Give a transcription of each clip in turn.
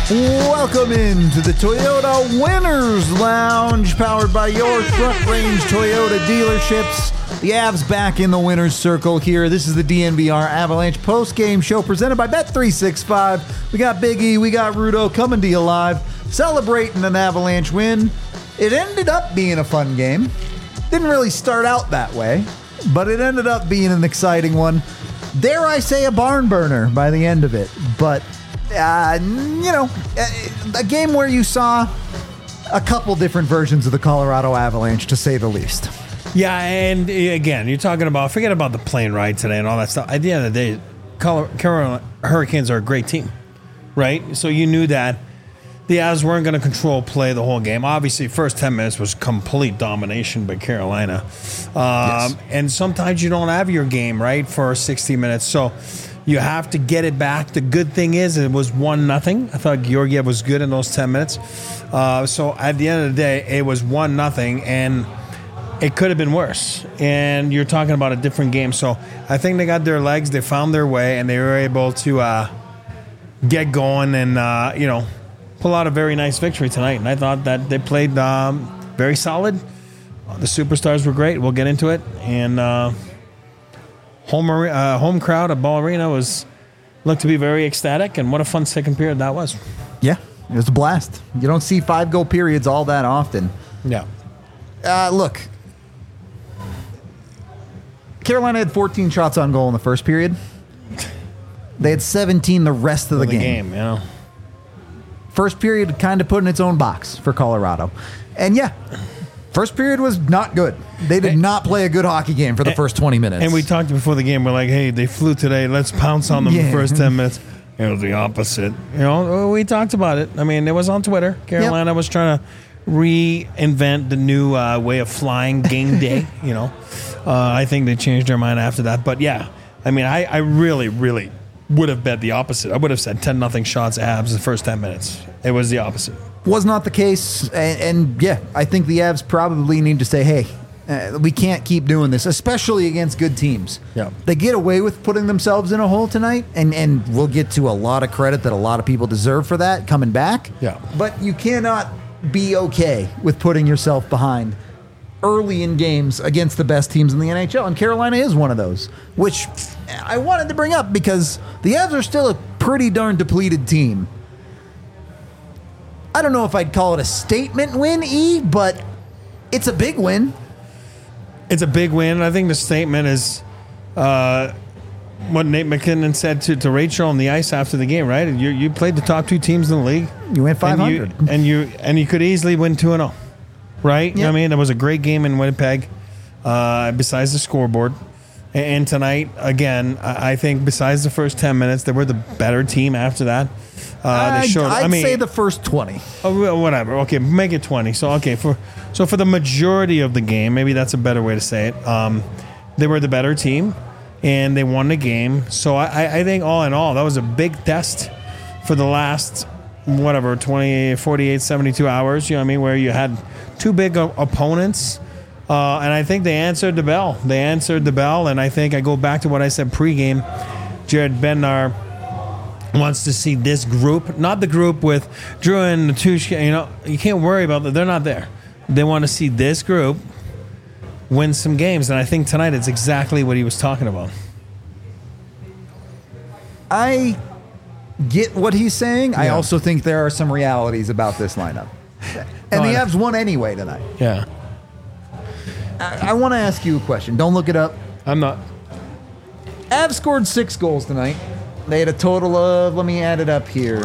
Welcome into the Toyota Winners Lounge, powered by your Front Range Toyota dealerships. The Avs back in the winner's circle here. This is the DNVR Avalanche post-game show presented by Bet365. We got Big E, we got Rudo coming to you live, celebrating an Avalanche win. It ended up being a fun game. Didn't really start out that way, but it ended up being an exciting one. Dare I say a barn burner by the end of it, but a game where you saw a couple different versions of the Colorado Avalanche, to say the least. Yeah, and again, you're talking about, forget about the plane ride today and all that stuff. At the end of the day, Carolina Hurricanes are a great team, right? So you knew that the Avs weren't going to control play the whole game. Obviously, first 10 minutes was complete domination by Carolina. Yes. And sometimes you don't have your game, right, for 60 minutes. So you have to get it back. The good thing is it was 1-0. I thought Georgiev was good in those 10 minutes. So at the end of the day, it was 1-0, and it could have been worse. And you're talking about a different game. So I think they got their legs. They found their way, and they were able to get going and, pull out a very nice victory tonight. And I thought that they played very solid. The superstars were great. We'll get into it. And home crowd at Ball Arena looked to be very ecstatic. And what a fun second period that was. Yeah, it was a blast. You don't see 5-goal periods all that often. Yeah. Look, Carolina had 14 shots on goal in the first period. They had 17 the rest of the game. Yeah. First period kind of put in its own box for Colorado. And yeah, first period was not good. They did not play a good hockey game for the first 20 minutes. And we talked before the game. We're like, hey, they flew today. Let's pounce on them the first 10 minutes. It was the opposite. We talked about it. I mean, it was on Twitter. Carolina was trying to reinvent the new way of flying game day. I think they changed their mind after that. But yeah, I mean, I really, really would have bet the opposite. I would have said 10-0 shots Avs the first 10 minutes. It was the opposite. Was not the case. And yeah, I think the Avs probably need to say, hey, we can't keep doing this, especially against good teams. Yeah. They get away with putting themselves in a hole tonight, and we'll get to a lot of credit that a lot of people deserve for that coming back. Yeah. But you cannot be okay with putting yourself behind early in games against the best teams in the NHL, and Carolina is one of those, which I wanted to bring up because the Avs are still a pretty darn depleted team. I don't know if I'd call it a statement win, but it's a big win. It's a big win. I think the statement is what Nate McKinnon said to Rachel on the ice after the game, right? You played the top two teams in the league. You went 500. And you could easily win 2-0. Right? Yep. I mean, it was a great game in Winnipeg, besides the scoreboard. And tonight, again, I think besides the first 10 minutes, they were the better team after that. I'd say the first 20. Oh, whatever. Okay, make it 20. So, okay, for the majority of the game, maybe that's a better way to say it, they were the better team, and they won the game. So I think all in all, that was a big test for the last 48, 72 hours, where you had two big opponents, and I think they answered the bell. And I think I go back to what I said pregame. Jared Bednar wants to see this group, not the group with Drew and Natushka. You can't worry about that. They're not there. They want to see this group win some games, and I think tonight it's exactly what he was talking about. I get what he's saying. Yeah. I also think there are some realities about this lineup. And the Avs won anyway tonight. Yeah. I want to ask you a question. Don't look it up. I'm not. Avs scored 6 goals tonight. They had a total of, let me add it up here,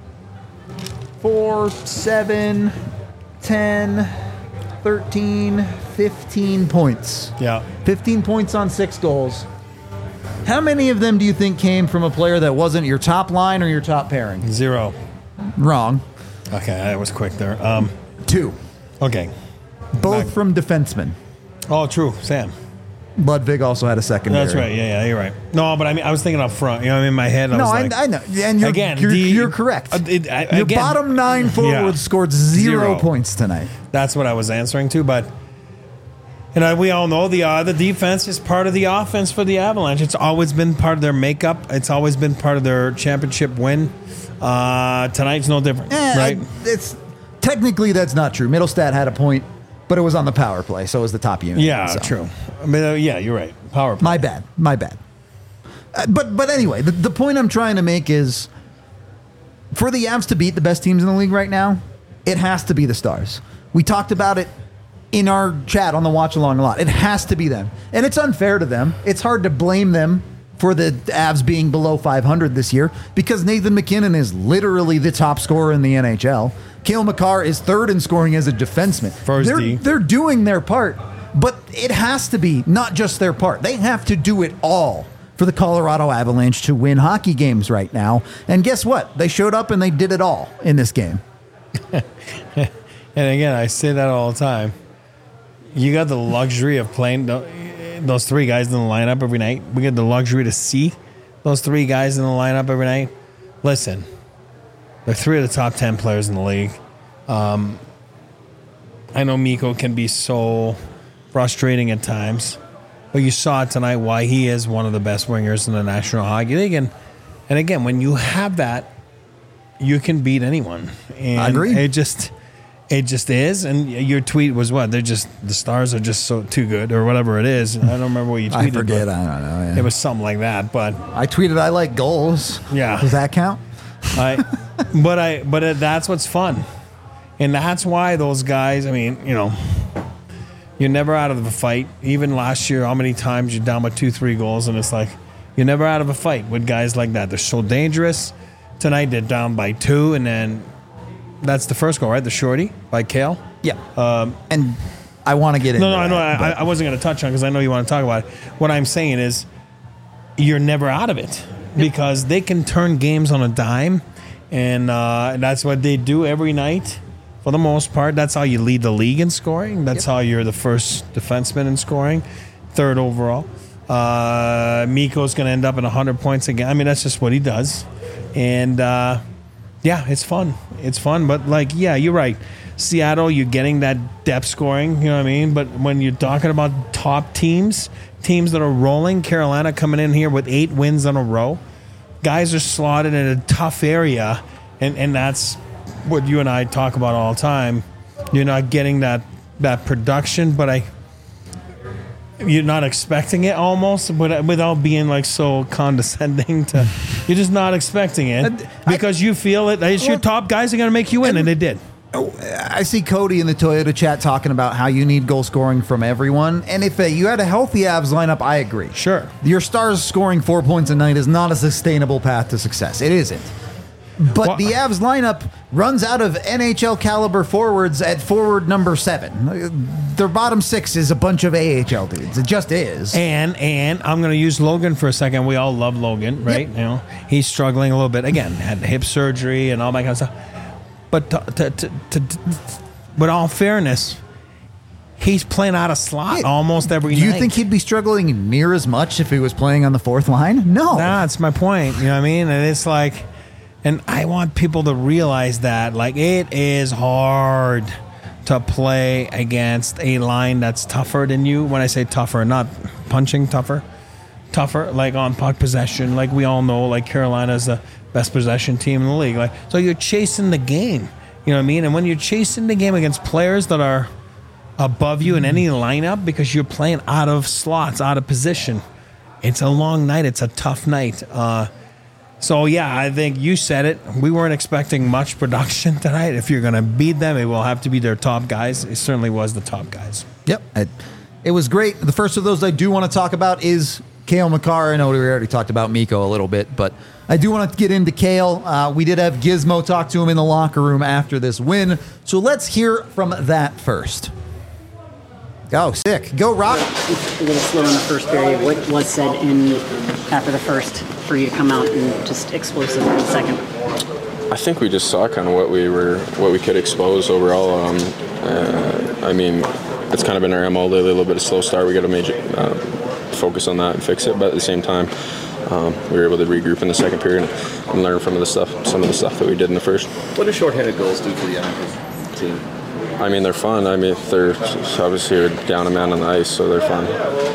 4, 7, 10, 13, 15 points. Yeah. 15 points on 6 goals. How many of them do you think came from a player that wasn't your top line or your top pairing? 0. Wrong. Okay, that was quick there. 2. Okay. Both from defensemen. Oh, true. Sam. Ludwig also had a secondary. That's right. Yeah, you're right. No, but I was thinking up front. In my head. I know. And you're correct. Your bottom 9 forwards scored 0 points tonight. That's what I was answering to. But we all know the defense is part of the offense for the Avalanche. It's always been part of their makeup. It's always been part of their championship win. Tonight's no different, right? It's technically that's not true. Middlestat had a point, but it was on the power play, so it was the top unit. Yeah, so. true. I mean, yeah, you're right. Power play. My bad. But anyway, the point I'm trying to make is for the Avs to beat the best teams in the league right now, it has to be the Stars. We talked about it in our chat on the watch along a lot. It has to be them. And it's unfair to them. It's hard to blame them for the Avs being below 500 this year because Nathan MacKinnon is literally the top scorer in the NHL. Cale Makar is third in scoring as a defenseman. They're doing their part, but it has to be not just their part. They have to do it all for the Colorado Avalanche to win hockey games right now. And guess what? They showed up and they did it all in this game. And again, I say that all the time. You got the luxury of playing those three guys in the lineup every night. We get the luxury to see those three guys in the lineup every night. Listen, they're three of the top 10 players in the league. I know Mikko can be so frustrating at times, but you saw tonight why he is one of the best wingers in the National Hockey League. And again, when you have that, you can beat anyone. And I agree. It just is. And your tweet was what? The Stars are just so too good or whatever it is. I don't remember what you tweeted. I forget. I don't know. Yeah. It was something like that. But I tweeted I like goals. Yeah. Does that count? But that's what's fun. And that's why those guys, I mean, you know, you're never out of a fight. Even last year, how many times you're down by 2-3 goals, and it's like you're never out of a fight with guys like that. They're so dangerous. Tonight they're down by 2, and then that's the first goal, right? The shorty by Cale. Yeah. And I want to get into I know. I wasn't going to touch on because I know you want to talk about it. What I'm saying is you're never out of it because they can turn games on a dime, and that's what they do every night. For the most part, that's how you lead the league in scoring. That's how you're the first defenseman in scoring, third overall. Mikko's going to end up at 100 points again. I mean, that's just what he does. And, yeah, it's fun. It's fun. But, like, yeah, you're right. Seattle, you're getting that depth scoring, you know what I mean? But when you're talking about top teams that are rolling, Carolina coming in here with 8 wins in a row, guys are slotted in a tough area, and that's what you and I talk about all the time. You're not getting that production, but you're not expecting it almost, but without being like so condescending to, you're just not expecting it because you feel it. It's your top guys are going to make you win, and they did. I see Cody in the Toyota chat talking about how you need goal scoring from everyone, and if you had a healthy Avs lineup, I agree. Sure. Your Stars scoring 4 points a night is not a sustainable path to success. It isn't. But the Avs lineup runs out of NHL caliber forwards at forward number 7. Their bottom 6 is a bunch of AHL dudes. It just is. And I'm going to use Logan for a second. We all love Logan, right? Yep. You know, he's struggling a little bit. Again, had hip surgery and all that kind of stuff. But with all fairness, he's playing out of slot almost every night. Do you think he'd be struggling near as much if he was playing on the 4th line? No. That's my point. You know what I mean? And it's like, and I want people to realize that, like, it is hard to play against a line that's tougher than you. When I say tougher, not punching tougher, like on puck possession. Like we all know, like Carolina's the best possession team in the league. Like, so you're chasing the game. You know what I mean? And when you're chasing the game against players that are above you in any lineup because you're playing out of slots, out of position, it's a long night. It's a tough night. So, yeah, I think you said it. We weren't expecting much production tonight. If you're going to beat them, it will have to be their top guys. It certainly was the top guys. Yep. It was great. The first of those I do want to talk about is Cale Makar. I know we already talked about Mikko a little bit, but I do want to get into Cale. We did have Gizmo talk to him in the locker room after this win. So let's hear from that first. Oh, sick. Go, Rock. A little slow in the first period. What was said after the first for you to come out and just explosive in the second? I think we just saw kind of what we could expose overall. I mean, it's kind of been our MO lately, a little bit of slow start. We got to major focus on that and fix it. But at the same time, we were able to regroup in the second period and learn from some of the stuff that we did in the first. What do shorthanded goals do for the Avs team? I mean, they're fun. I mean, they're obviously down a man on the ice, so they're fun.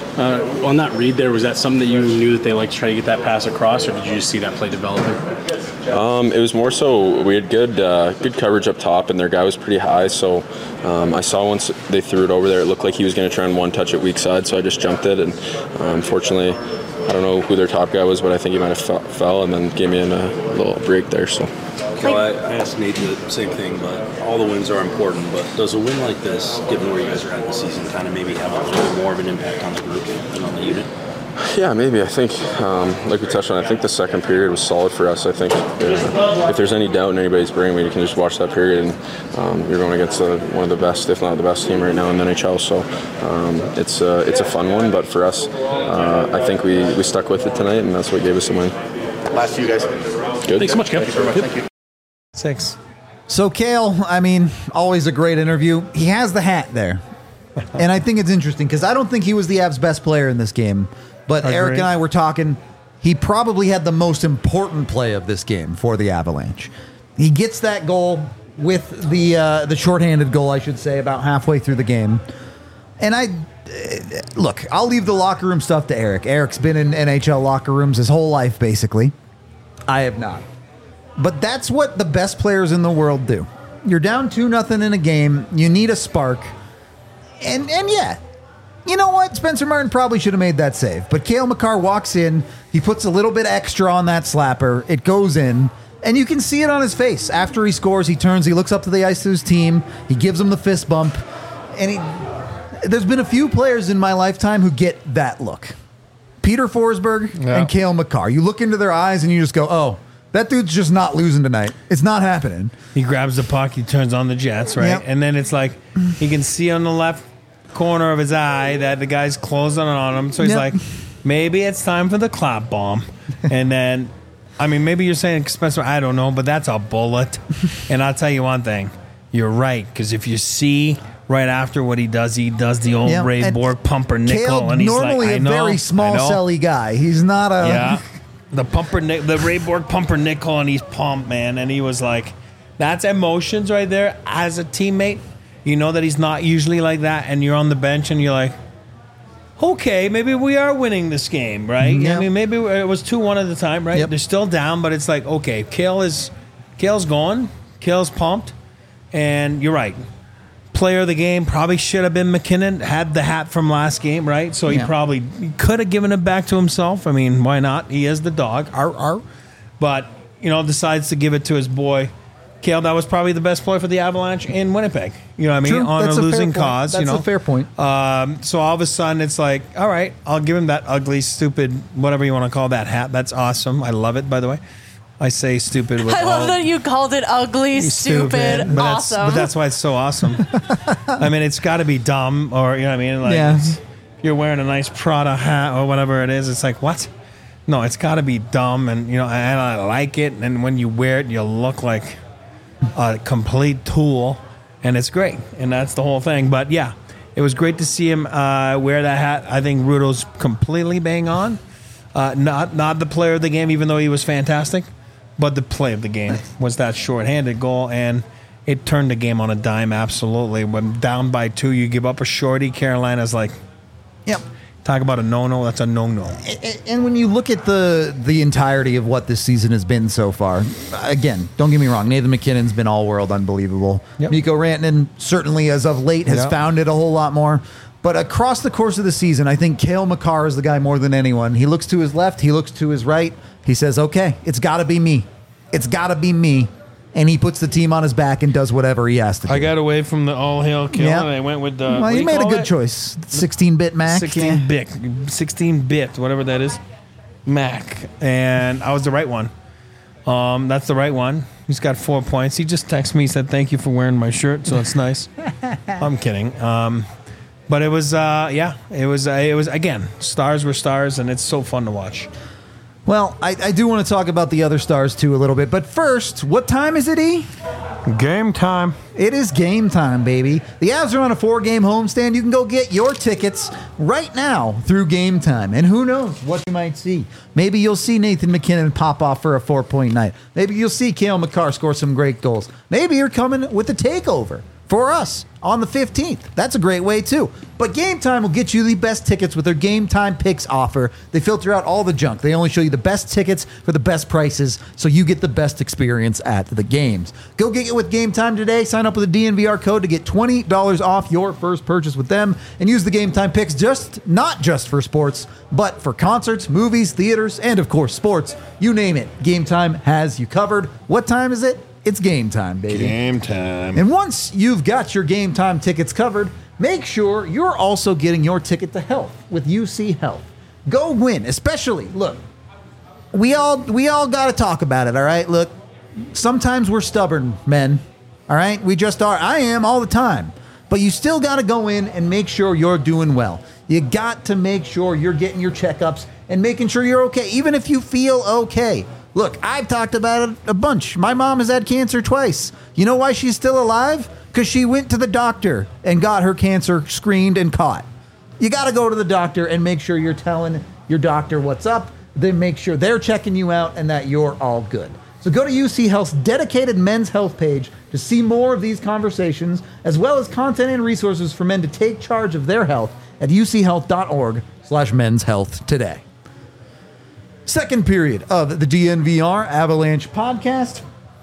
On that read there, was that something that you knew that they liked to try to get that pass across, or did you just see that play developing? It was more so we had good coverage up top, and their guy was pretty high. So I saw once they threw it over there, it looked like he was going to try and one touch it weak side. So I just jumped it, and unfortunately, I don't know who their top guy was, but I think he might have fell and then gave me a little break there. So. Well, I asked Nate the same thing, but all the wins are important. But does a win like this, given where you guys are at in the season, kind of maybe have a little bit more of an impact on the group and on the unit? Yeah, maybe. I think, like we touched on, I think the second period was solid for us. I think if there's any doubt in anybody's brain, you can just watch that period, and you're going against one of the best, if not the best team right now in the NHL. So it's a fun one, but for us, I think we stuck with it tonight, and that's what gave us the win. Last to you guys. Good. Thanks so much, Kevin. Thank you. 6. So Cale, I mean, always a great interview. He has the hat there. And I think it's interesting because I don't think he was the Avs' best player in this game. But Eric and I were talking, he probably had the most important play of this game for the Avalanche. He gets that goal with the shorthanded goal, I should say, about halfway through the game. And look, I'll leave the locker room stuff to Eric. Eric's been in NHL locker rooms his whole life, basically. I have not. But that's what the best players in the world do. You're down 2-0 in a game. You need a spark. And yeah, you know what? Spencer Martin probably should have made that save. But Cale Makar walks in. He puts a little bit extra on that slapper. It goes in. And you can see it on his face. After he scores, he turns. He looks up to the ice to his team. He gives them the fist bump. And there's been a few players in my lifetime who get that look. Peter Forsberg and Cale Makar. You look into their eyes and you just go, oh, that dude's just not losing tonight. It's not happening. He grabs the puck, he turns on the Jets, right? Yep. And then it's like he can see on the left corner of his eye that the guy's closing on him. So he's like, maybe it's time for the clap bomb. And then, I mean, maybe you're saying Spencer, I don't know, but that's a bullet. And I'll tell you one thing. You're right, because if you see right after what he does the old Ray Borg pumpernickel. Cale, And he's normally like, a very small celly guy. He's not a... Yeah. The Ray Borg pumpernickel, and he's pumped, man. And he was like, that's emotions right there. As a teammate, you know that he's not usually like that, and you're on the bench, and you're like, okay, maybe we are winning this game, right? Yep. I mean, maybe it was 2-1 at the time, right? Yep. They're still down, but it's like, okay, Cale's going, Cale's pumped, and you're right. Player of the game probably should have been McKinnon, had the hat from last game, right? So he probably could have given it back to himself. I mean, why not? He is the dog. Arr, arr. But, decides to give it to his boy. Cale, that was probably the best player for the Avalanche in Winnipeg. You know what I mean? True. On That's a losing fair point. cause. That's a fair point. So all of a sudden it's like, all right, I'll give him that ugly, stupid, whatever you want to call that hat. That's awesome. I love it, by the way. I say stupid with I love that you called it ugly, stupid, but awesome. That's why it's so awesome. I mean, it's got to be dumb, or you know what I mean? Like, you're wearing a nice Prada hat or whatever it is. It's like, what? No, it's got to be dumb, and and I like it. And when you wear it, you look like a complete tool, and it's great. And that's the whole thing. But yeah, it was great to see him wear that hat. I think Rudo's completely bang on. Not the player of the game, even though he was fantastic. But the play of the game was that shorthanded goal, and it turned the game on a dime, absolutely. When down by 2, you give up a shorty. Carolina's like, Yep. Talk about a no-no. That's a no-no. And when you look at the entirety of what this season has been so far, again, don't get me wrong, Nathan McKinnon's been all-world unbelievable. Yep. Mikko Rantanen, certainly as of late, has found it a whole lot more. But across the course of the season, I think Cale Makar is the guy more than anyone. He looks to his left. He looks to his right. He says, okay, it's got to be me. It's got to be me. And he puts the team on his back and does whatever he has to do. I got away from the all-hail Cale, and I went with the... Well, you made a good choice. 16-bit Mac. 16-bit, whatever that is. Mac. And I was the right one. That's the right one. He's got 4 points. He just texted me, said, thank you for wearing my shirt, so it's nice. I'm kidding. But it was, it was, again, stars were stars, and it's so fun to watch. Well, I do want to talk about the other stars, too, a little bit. But first, what time is it, E? Game time. It is game time, baby. The Avs are on a 4-game homestand. You can go get your tickets right now through Game Time. And who knows what you might see. Maybe you'll see Nathan McKinnon pop off for a 4-point night. Maybe you'll see Cale Makar score some great goals. Maybe you're coming with a takeover for us on the 15th. That's a great way too. But Game Time will get you the best tickets with their Game Time Picks offer. They filter out all the junk. They only show you the best tickets for the best prices, so you get the best experience at the games. Go get it with Game Time today. Sign up with a DNVR code to get $20 off your first purchase with them, and use the Game Time Picks not just for sports, but for concerts, movies, theaters, and of course sports. You name it, Game Time has you covered. What time is it? It's game time, baby. Game time. And once you've got your Game Time tickets covered, make sure you're also getting your ticket to health with UC Health. Go win, especially, look, we all got to talk about it, all right? Look, sometimes we're stubborn, men, all right? We just are. I am all the time. But you still got to go in and make sure you're doing well. You got to make sure you're getting your checkups and making sure you're okay, even if you feel okay. Look, I've talked about it a bunch. My mom has had cancer twice. You know why she's still alive? Because she went to the doctor and got her cancer screened and caught. You got to go to the doctor and make sure you're telling your doctor what's up. Then make sure they're checking you out and that you're all good. So go to UC Health's dedicated men's health page to see more of these conversations, as well as content and resources for men to take charge of their health at uchealth.org/men's health today. Second period of the DNVR Avalanche podcast.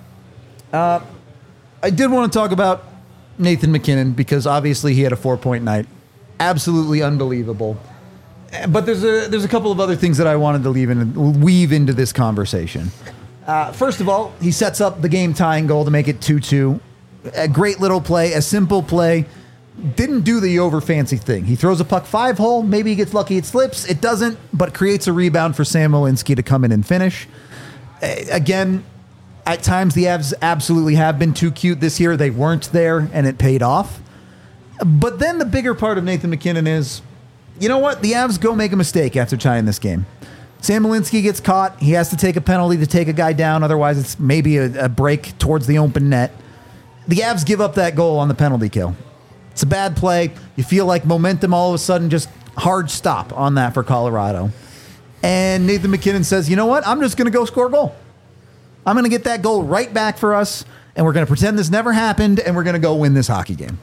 I did want to talk about Nathan MacKinnon because obviously he had a 4-point night. Absolutely unbelievable. But there's a couple of other things that I wanted to weave into this conversation. First of all, he sets up the game tying goal to make it 2-2. A great little play, a simple play. Didn't do the over fancy thing. He throws a puck 5-hole. Maybe he gets lucky it slips. It doesn't, but creates a rebound for Sam Malinsky to come in and finish. Again, at times the Avs absolutely have been too cute this year. They weren't there, and it paid off. But then the bigger part of Nathan MacKinnon is, you know what? The Avs go make a mistake after tying this game. Sam Malinsky gets caught. He has to take a penalty to take a guy down. Otherwise, it's maybe a break towards the open net. The Avs give up that goal on the penalty kill. It's a bad play. You feel like momentum all of a sudden just hard stop on that for Colorado. And Nathan MacKinnon says, you know what? I'm just going to go score a goal. I'm going to get that goal right back for us, and we're going to pretend this never happened, and we're going to go win this hockey game.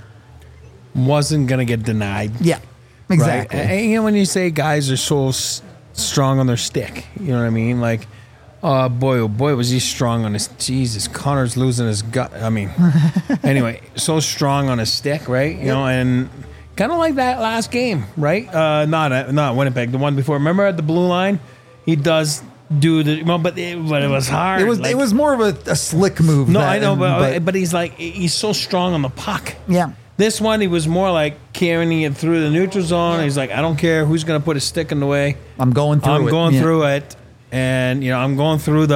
Wasn't going to get denied. Yeah, exactly. Right? And, you know, when you say guys are so strong on their stick, you know what I mean? Like, oh boy, was he strong on his... Jesus, Connor's losing his gut. I mean, anyway, so strong on his stick, right? You know, and kind of like that last game, right? Not Winnipeg, the one before. Remember at the blue line? He does do the... Well, but it was hard. It was more of a slick move. No, I know, but he's like... He's so strong on the puck. Yeah. This one, he was more like carrying it through the neutral zone. He's like, I don't care who's going to put a stick in the way. I'm going through it. And, you know, I'm going through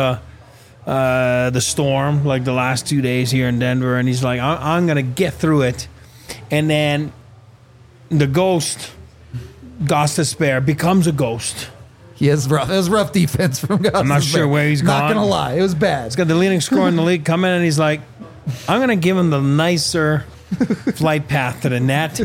the storm, like the last 2 days here in Denver. And he's like, I'm going to get through it. And then the ghost, Gostisbehere, becomes a ghost. He has rough defense from Gostisbehere. I'm not sure where he's gone. Not going to lie. It was bad. He's got the leading scorer in the league coming in, and he's like, I'm going to give him the nicer flight path to the net.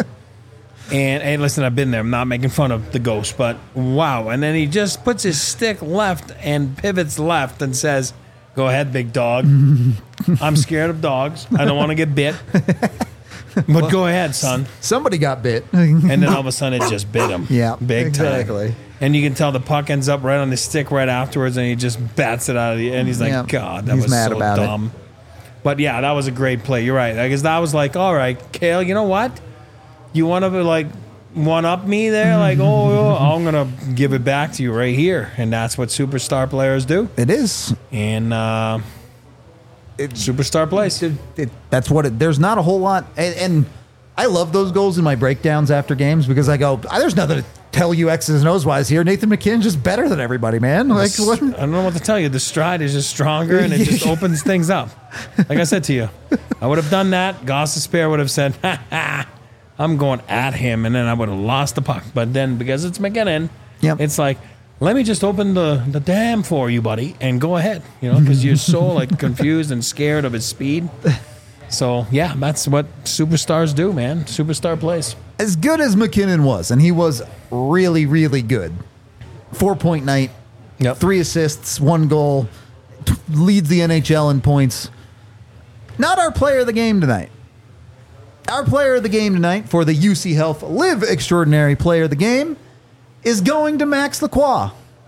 And hey, listen, I've been there. I'm not making fun of the ghost, but wow. And then he just puts his stick left and pivots left and says, go ahead, big dog. I'm scared of dogs. I don't want to get bit. But go ahead, son. Somebody got bit. And then all of a sudden it just bit him. Yeah, big exactly. time. And you can tell the puck ends up right on his stick right afterwards, and he just bats it out of the... And he's like, God, that was mad so about dumb. But yeah, that was a great play. You're right. I guess that was like, all right, Kale, you know what? You want to like one-up me there? Like, I'm going to give it back to you right here. And that's what superstar players do. It is. And superstar plays. That's what it... There's not a whole lot... And I love those goals in my breakdowns after games because I go, there's nothing to tell you X's and O's wise here. Nathan MacKinnon's just better than everybody, man. Like, what? I don't know what to tell you. The stride is just stronger, and it just opens things up. Like I said to you, I would have done that. Gostisbehere would have said, I'm going at him, and then I would have lost the puck. But then, because it's MacKinnon, it's like, let me just open the dam for you, buddy, and go ahead. You know, because you're so like confused and scared of his speed. So, yeah, that's what superstars do, man. Superstar plays. As good as MacKinnon was, and he was really, really good. 4-point night, 3 assists, 1 goal, leads the NHL in points. Not our player of the game tonight. Our player of the game tonight for the UC Health Live Extraordinary Player of the Game is going to Max Lacroix.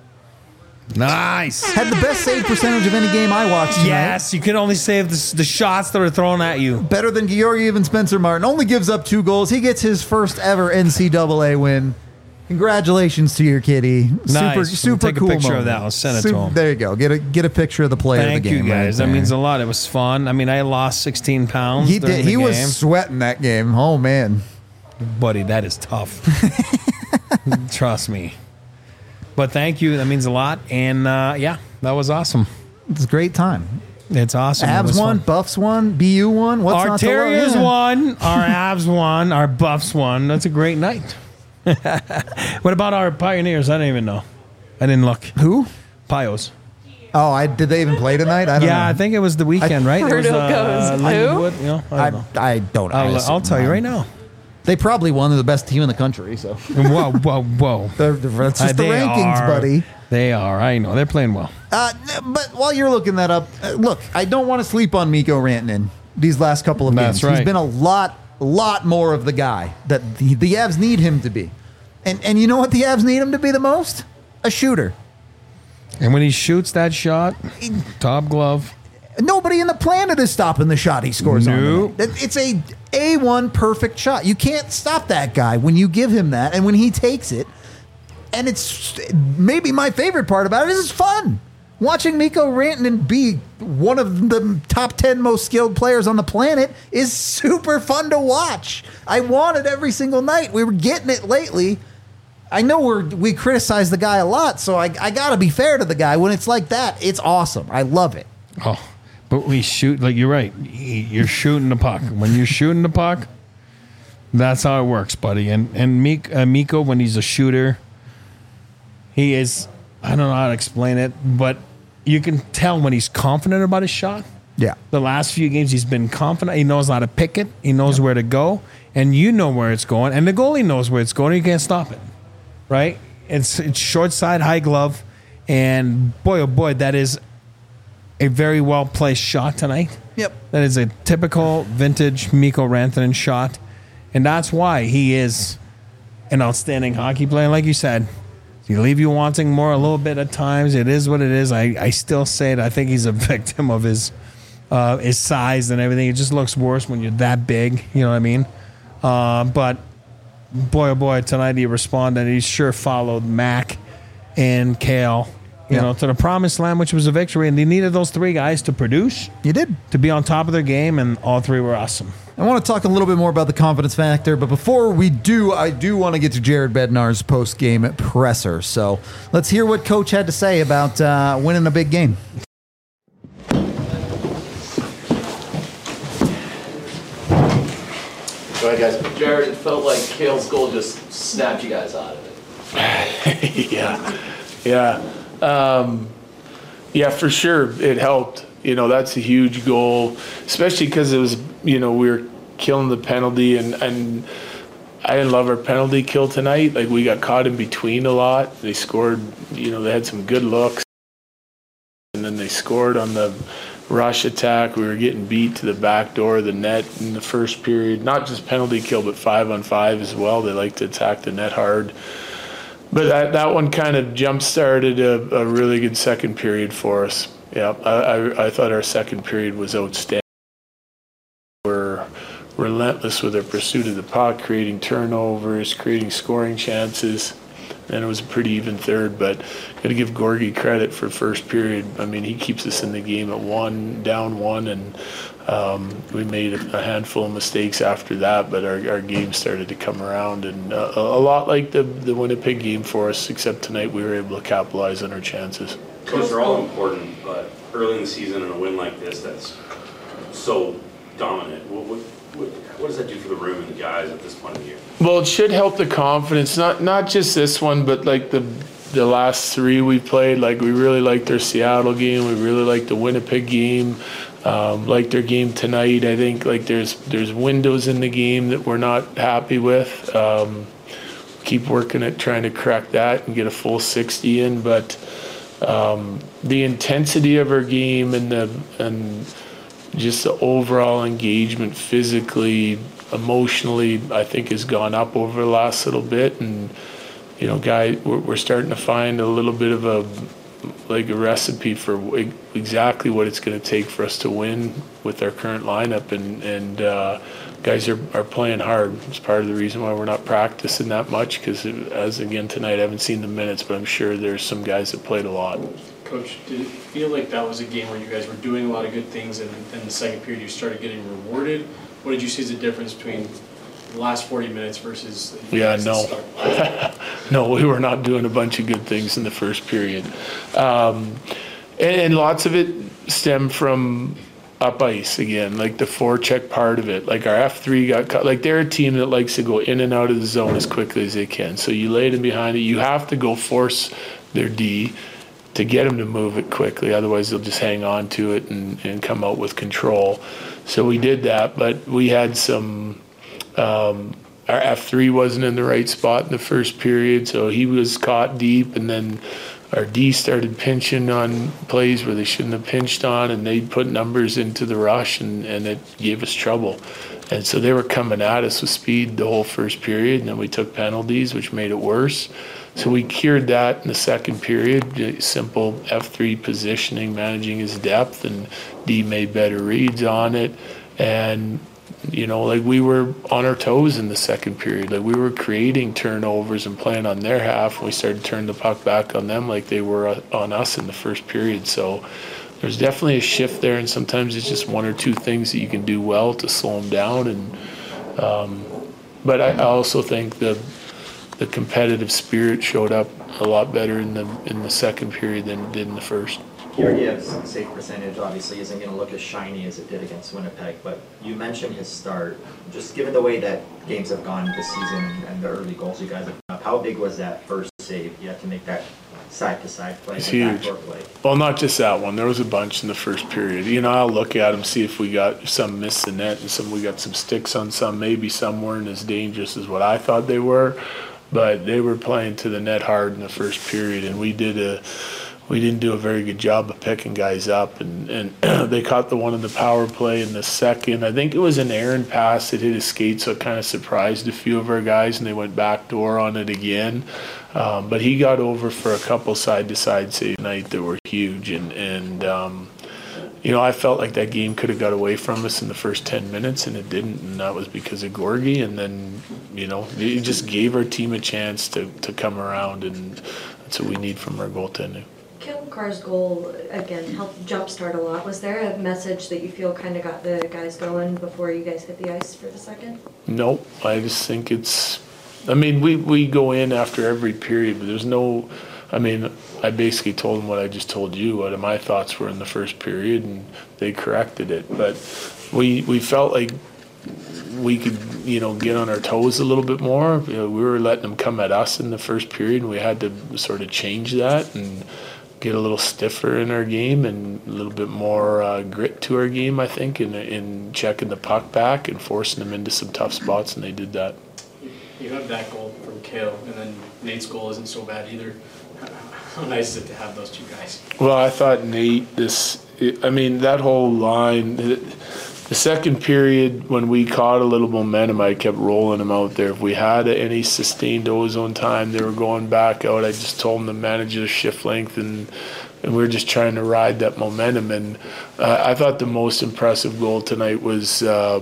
Nice. Had the best save percentage of any game I watched tonight. Yes, you can only save the shots that are thrown at you. Better than Georgiev and Spencer Martin. Only gives up 2 goals. He gets his first ever NCAA win. Congratulations to your kitty. Nice. Super Take cool a picture moment. of that. I'll send it to him. There you go. Get a picture of the player of the Thank game. you, guys. Right That means there. a lot. It was fun. I mean, I lost 16 pounds. He during did. the He game. was sweating that game. Oh man, Buddy, that is tough. Trust me. But thank you. That means a lot. And yeah, that was awesome. it's a great time. It's awesome. It Abs was won, fun. Buffs won, BU won. What's Our not to love? Terriers Yeah. won. Our Abs won. Our Buffs won. That's a great night. What about our Pioneers? I don't even know. I didn't look. Who? Pios. Oh, did they even play tonight? I don't know. Yeah, I think it was the weekend, right? It was, Bruno goes, Lindenwood, you know, I don't know. I don't know. I'll tell you right now. They probably won. They're the best team in the country. So Whoa, whoa, whoa. that's just the They rankings, are. buddy. They are. I know. They're playing well. But while you're looking that up, look, I don't want to sleep on Mikko Rantanen these last couple of That's games. right. He's been a lot more of the guy that the Avs need him to be. And you know what the Avs need him to be the most? A shooter. And when he shoots that shot, top glove. Nobody in the planet is stopping the shot he scores No. on. It's a A1 perfect shot. You can't stop that guy when you give him that and when he takes it. And it's maybe my favorite part about it is it's fun. Watching Mikko Rantanen be one of the top 10 most skilled players on the planet is super fun to watch. I want it every single night. We were getting it lately. I know we criticize the guy a lot, so I got to be fair to the guy. When it's like that, it's awesome. I love it. Oh, but we shoot, like you're right. You're shooting the puck. When you're shooting the puck, that's how it works, buddy. And Mikko, when he's a shooter, he is, I don't know how to explain it, but you can tell when he's confident about his shot. Yeah. The last few games, he's been confident. He knows how to pick it. He knows where to go. And you know where it's going. And the goalie knows where it's going. And you can't stop it. Right? It's short side, high glove. And boy, oh boy, that is a very well-placed shot tonight. Yep. That is a typical vintage Mikko Rantanen shot. And that's why he is an outstanding hockey player. Like you said, he leave you wanting more a little bit at times. It is what it is. I still say it. I think he's a victim of his size and everything. It just looks worse when you're that big. You know what I mean? But boy, oh boy, tonight he responded. He sure followed Mac and Kale, you know, to the promised land, which was a victory. And they needed those 3 guys to produce. You did. To be on top of their game, and all 3 were awesome. I want to talk a little bit more about the confidence factor, but before we do, I do want to get to Jared Bednar's post-game presser. So let's hear what Coach had to say about winning a big game. Go ahead, guys. Jared, it felt like Kale's goal just snapped you guys out of it. Yeah, for sure, it helped. You know, that's a huge goal, especially because it was, you know, we were killing the penalty, and I didn't love our penalty kill tonight. Like, we got caught in between a lot. They scored, you know, they had some good looks, and then they scored on the rush attack. We were getting beat to the back door of the net in the first period. Not just penalty kill, but 5-on-5 as well. They like to attack the net hard. But that one kind of jump-started a really good second period for us. Yeah, I thought our second period was outstanding. We're relentless with our pursuit of the puck, creating turnovers, creating scoring chances. And it was a pretty even third, but got to give Gorgie credit for first period. I mean, he keeps us in the game at down one, and we made a handful of mistakes after that, but our game started to come around, and a lot like the Winnipeg game for us, except tonight we were able to capitalize on our chances. Coach, they're all important, but early in the season and a win like this that's so dominant, what does that do for the room and the guys at this point of the year? Well, it should help the confidence, not just this one, but like the last 3 we played. Like, we really liked our Seattle game, we really liked the Winnipeg game, liked their game tonight. I think like there's windows in the game that we're not happy with. Keep working at trying to crack that and get a full 60 in, but the intensity of our game and just the overall engagement physically, emotionally, I think has gone up over the last little bit. And, you know, we're starting to find a little bit of a recipe for exactly what it's going to take for us to win with our current lineup. And guys are playing hard. It's part of the reason why we're not practicing that much, because as again tonight, I haven't seen the minutes, but I'm sure there's some guys that played a lot. Coach, did it feel like that was a game where you guys were doing a lot of good things and in the second period you started getting rewarded? What did you see as the difference between the last 40 minutes versus No, we were not doing a bunch of good things in the first period. And lots of it stemmed from up ice again, like the forecheck part of it. Like our F3 got cut. Like they're a team that likes to go in and out of the zone as quickly as they can. So you lay them behind it. You have to go force their D to get them to move it quickly. Otherwise, they'll just hang on to it and come out with control. So we did that, but we had some our F3 wasn't in the right spot in the first period, so he was caught deep, and then our D started pinching on plays where they shouldn't have pinched on, and they put numbers into the rush, and it gave us trouble. And so they were coming at us with speed the whole first period, and then we took penalties, which made it worse. So we cured that in the second period, simple F3 positioning, managing his depth, and D made better reads on it. And, you know, like we were on our toes in the second period. Like we were creating turnovers and playing on their half. We started to turn the puck back on them like they were on us in the first period. So there's definitely a shift there, and sometimes it's just one or two things that you can do well to slow them down. And but I also think the competitive spirit showed up a lot better in the second period than it did in the first. Georgiev's save percentage obviously isn't going to look as shiny as it did against Winnipeg, but you mentioned his start. Just given the way that games have gone this season and the early goals you guys have put up, how big was that first save? You had to make that side-to-side play. It's huge. Play. Well, not just that one. There was a bunch in the first period. You know, I'll look at them, see if we got some miss the net and we got some sticks on some. Maybe some weren't as dangerous as what I thought they were, but they were playing to the net hard in the first period, and we didn't do a very good job of picking guys up, and they caught the one in the power play in the second. I think it was an errant pass that hit his skate, so it kind of surprised a few of our guys, and they went backdoor on it again. But he got over for a couple side-to-side save tonight that were huge, and you know, I felt like that game could have got away from us in the first 10 minutes, and it didn't, and that was because of Gorgie. And then, you know, it just gave our team a chance to come around, and that's what we need from our goaltending. Cale Makar's goal, again, helped jumpstart a lot. Was there a message that you feel kind of got the guys going before you guys hit the ice for the second? Nope. I just think it's, I mean, we go in after every period, but there's no, I mean, I basically told them what I just told you, what my thoughts were in the first period, and they corrected it. But we felt like we could, you know, get on our toes a little bit more. You know, we were letting them come at us in the first period, and we had to sort of change that and get a little stiffer in our game and a little bit more grit to our game, I think, in checking the puck back and forcing them into some tough spots, and they did that. You have that goal from Cale, and then Nate's goal isn't so bad either. How nice is it to have those two guys? Well, I thought Nate, that whole line, the second period when we caught a little momentum, I kept rolling them out there. If we had any sustained ozone time, they were going back out. I just told them to manage their shift length, and we were just trying to ride that momentum. And I thought the most impressive goal tonight was the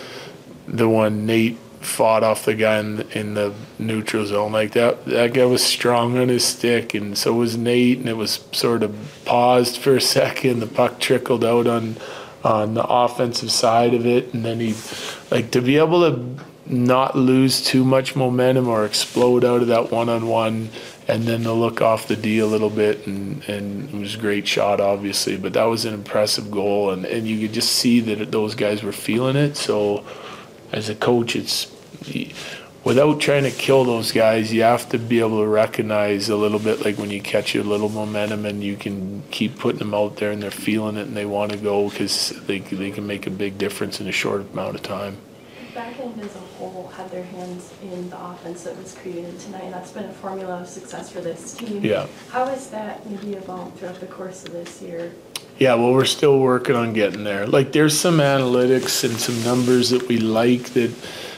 one Nate fought off the guy in the neutral zone. Like that guy was strong on his stick, and so was Nate, and it was sort of paused for a second. The puck trickled out on the offensive side of it, and then he, like, to be able to not lose too much momentum or explode out of that one-on-one, and then to look off the D a little bit, and it was a great shot, obviously, but that was an impressive goal, and you could just see that those guys were feeling it. So as a coach, it's, without trying to kill those guys, you have to be able to recognize a little bit, like when you catch a little momentum and you can keep putting them out there and they're feeling it and they want to go, because they can make a big difference in a short amount of time. Backhand as a whole had their hands in the offense that was created tonight, and that's been a formula of success for this team. Yeah. How has that maybe evolved throughout the course of this year? Yeah, well, we're still working on getting there. Like, there's some analytics and some numbers that we like that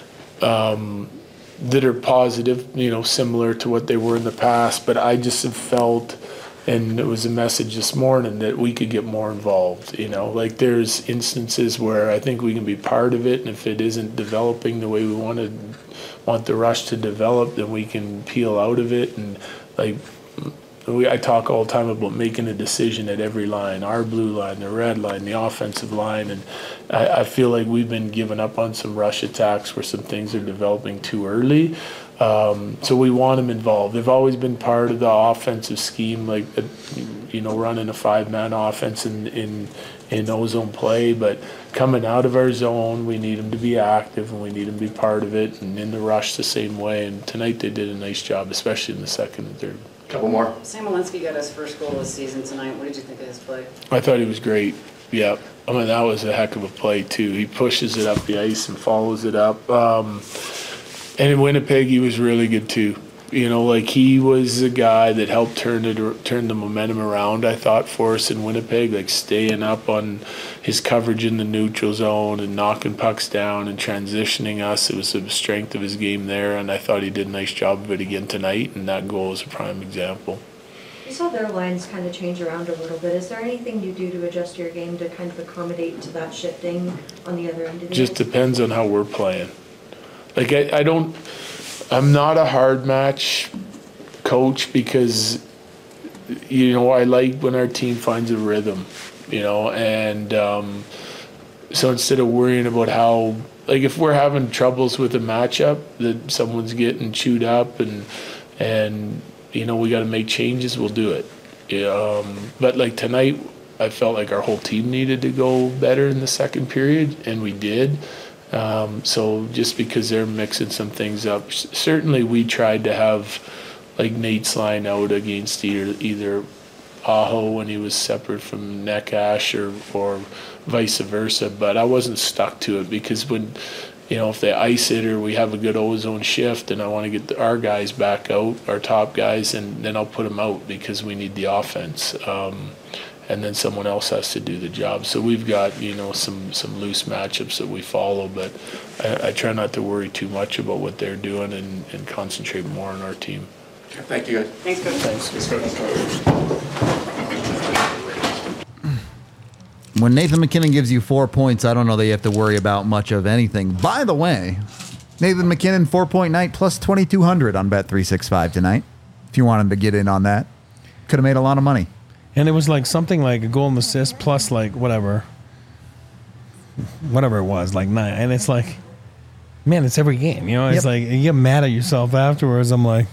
that are positive, similar to what they were in the past. But I just have felt, and it was a message this morning, that we could get more involved. Like, there's instances where I think we can be part of it, and if it isn't developing the way we want the rush to develop, then we can peel out of it. And like, I talk all the time about making a decision at every line, our blue line, the red line, the offensive line, and I feel like we've been giving up on some rush attacks where some things are developing too early. So we want them involved. They've always been part of the offensive scheme, like, running a 5-man offense in O-zone play, but coming out of our zone, we need them to be active and we need them to be part of it, and in the rush the same way. And tonight they did a nice job, especially in the second and third. Couple more. Sam Walensky got his first goal this season tonight. What did you think of his play? I thought he was great. Yeah, I mean, that was a heck of a play too. He pushes it up the ice and follows it up. And in Winnipeg, he was really good too. Like, he was a guy that helped turn the momentum around, I thought, for us in Winnipeg, like staying up on his coverage in the neutral zone and knocking pucks down and transitioning us. It was the strength of his game there, and I thought he did a nice job of it again tonight, and that goal is a prime example. You saw their lines kind of change around a little bit. Is there anything you do to adjust your game to kind of accommodate to that shifting on the other end of the Just depends on how we're playing. Like, I'm not a hard match coach because, I like when our team finds a rhythm, and so instead of worrying about how, like, if we're having troubles with a matchup that someone's getting chewed up and we got to make changes, we'll do it. But like tonight, I felt like our whole team needed to go better in the second period, and we did. So just because they're mixing some things up, certainly we tried to have like Nate's line out against either Aho when he was separate from Neckash or vice versa, but I wasn't stuck to it because when, if they ice it or we have a good O-zone shift and I want to get our guys back out, our top guys, and then I'll put them out because we need the offense. And then someone else has to do the job. So we've got, some loose matchups that we follow, but I try not to worry too much about what they're doing and concentrate more on our team. Thank you, guys. Thanks, Coach. Thanks, Coach. When Nathan MacKinnon gives you 4 points, I don't know that you have to worry about much of anything. By the way, Nathan MacKinnon 4-point night plus 2,200 on Bet365 tonight. If you wanted to get in on that, could have made a lot of money. And it was like something like a goal and assist plus like whatever it was, like 9. And it's like, man, it's every game. It's like you get mad at yourself afterwards. I'm like,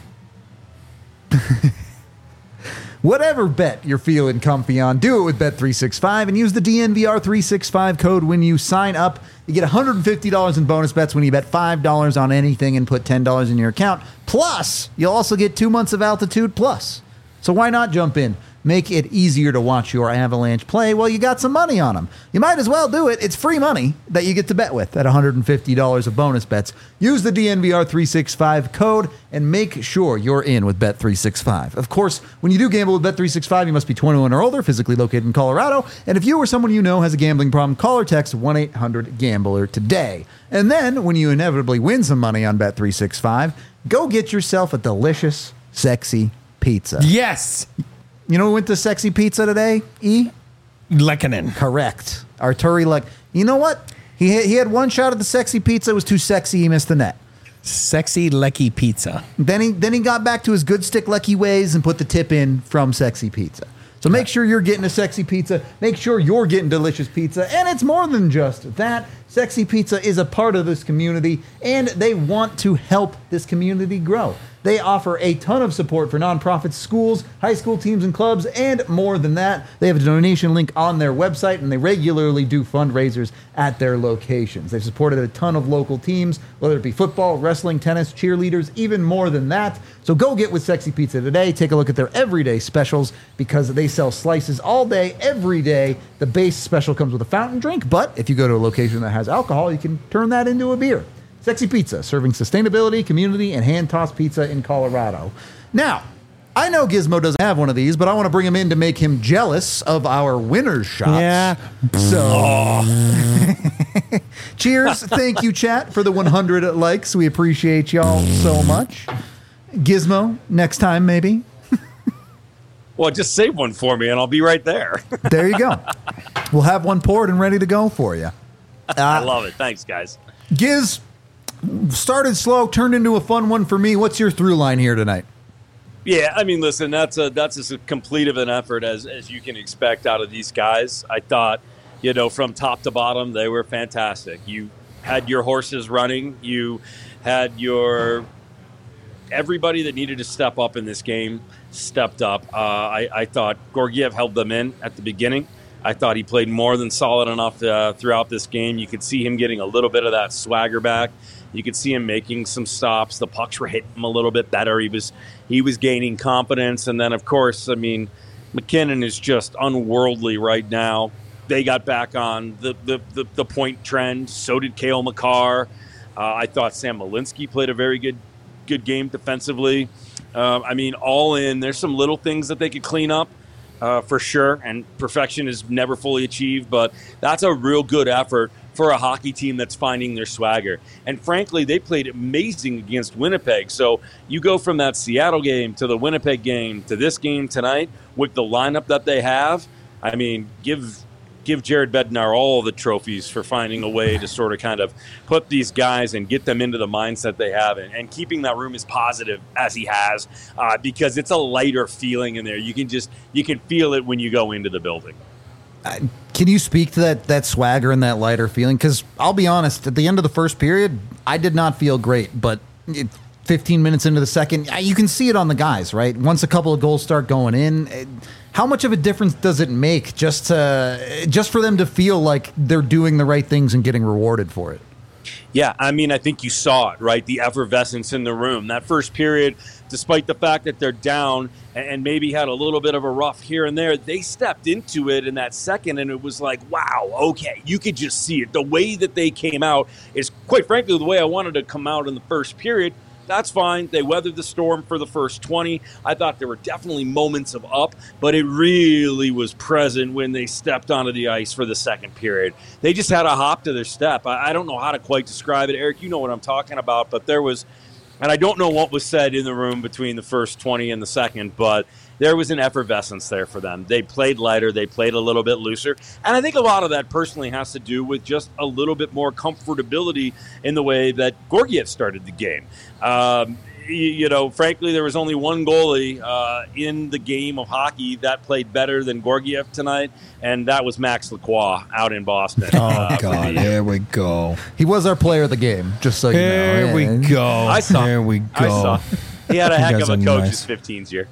whatever bet you're feeling comfy on, do it with Bet365 and use the DNVR365 code when you sign up. You get $150 in bonus bets when you bet $5 on anything and put $10 in your account. Plus, you'll also get 2 months of Altitude Plus. So why not jump in? Make it easier to watch your Avalanche play while you got some money on them. You might as well do it. It's free money that you get to bet with at $150 of bonus bets. Use the DNVR365 code and make sure you're in with Bet365. Of course, when you do gamble with Bet365, you must be 21 or older, physically located in Colorado. And if you or someone you know has a gambling problem, call or text 1-800-GAMBLER today. And then, when you inevitably win some money on Bet365, go get yourself a delicious, sexy pizza. Yes! You know who went to Sexy Pizza today, E? Lehkonen. Correct. Arturi Lehkonen. You know what? He had one shot at the Sexy Pizza. It was too sexy. He missed the net. Sexy Lecky Pizza. Then he got back to his good stick Lecky ways and put the tip in from Sexy Pizza. So make sure you're getting a Sexy Pizza. Make sure you're getting delicious pizza. And it's more than just that. Sexy Pizza is a part of this community, and they want to help this community grow. They offer a ton of support for nonprofits, schools, high school teams and clubs, and more than that. They have a donation link on their website, and they regularly do fundraisers at their locations. They've supported a ton of local teams, whether it be football, wrestling, tennis, cheerleaders, even more than that. So go get with Sexy Pizza today. Take a look at their everyday specials because they sell slices all day, every day. The base special comes with a fountain drink, but if you go to a location that has alcohol, you can turn that into a beer. Sexy Pizza, serving sustainability, community, and hand-tossed pizza in Colorado. Now, I know Gizmo doesn't have one of these, but I want to bring him in to make him jealous of our winner's shots. Yeah. So, cheers. Thank you, chat, for the 100 likes. We appreciate y'all so much. Gizmo, next time, maybe. Well, just save one for me, and I'll be right there. There you go. We'll have one poured and ready to go for you. I love it. Thanks, guys. Giz, started slow, turned into a fun one for me. What's your through line here tonight? Yeah, I mean, listen, that's as complete of an effort as you can expect out of these guys. I thought, from top to bottom, they were fantastic. You had your horses running. You had everybody that needed to step up in this game stepped up. I thought Georgiev held them in at the beginning. I thought he played more than solid enough throughout this game. You could see him getting a little bit of that swagger back. You could see him making some stops. The pucks were hitting him a little bit better. He was gaining confidence. And then, of course, I mean, McKinnon is just unworldly right now. They got back on the point trend. So did Cale Makar. I thought Sam Malinsky played a very good game defensively. I mean, all in, there's some little things that they could clean up. For sure, and perfection is never fully achieved, but that's a real good effort for a hockey team that's finding their swagger. And frankly, they played amazing against Winnipeg. So you go from that Seattle game to the Winnipeg game to this game tonight with the lineup that they have. I mean, give Jared Bednar all the trophies for finding a way to sort of kind of put these guys and get them into the mindset they have and keeping that room as positive as he has because it's a lighter feeling in there. You can feel it when you go into the building. Can you speak to that swagger and that lighter feeling? Because I'll be honest, at the end of the first period, I did not feel great, but 15 minutes into the second, you can see it on the guys, right? Once a couple of goals start going in, how much of a difference does it make just for them to feel like they're doing the right things and getting rewarded for it? Yeah, I mean, I think you saw it, right? The effervescence in the room. That first period, despite the fact that they're down and maybe had a little bit of a rough here and there, they stepped into it in that second, and it was like, wow, okay, you could just see it. The way that they came out is, quite frankly, the way I wanted to come out in the first period. That's fine. They weathered the storm for the first 20. I thought there were definitely moments of up, but it really was present when they stepped onto the ice for the second period. They just had a hop to their step. I don't know how to quite describe it. Eric, you know what I'm talking about, but there was, and I don't know what was said in the room between the first 20 and the second, but there was an effervescence there for them. They played lighter. They played a little bit looser. And I think a lot of that personally has to do with just a little bit more comfortability in the way that Georgiev started the game. Frankly, there was only one goalie in the game of hockey that played better than Georgiev tonight, and that was Max Lacroix out in Boston. Oh, God, there we go. He was our player of the game, just so you know. There we go. There we go. I saw. He had a heck of a coach his 15th year.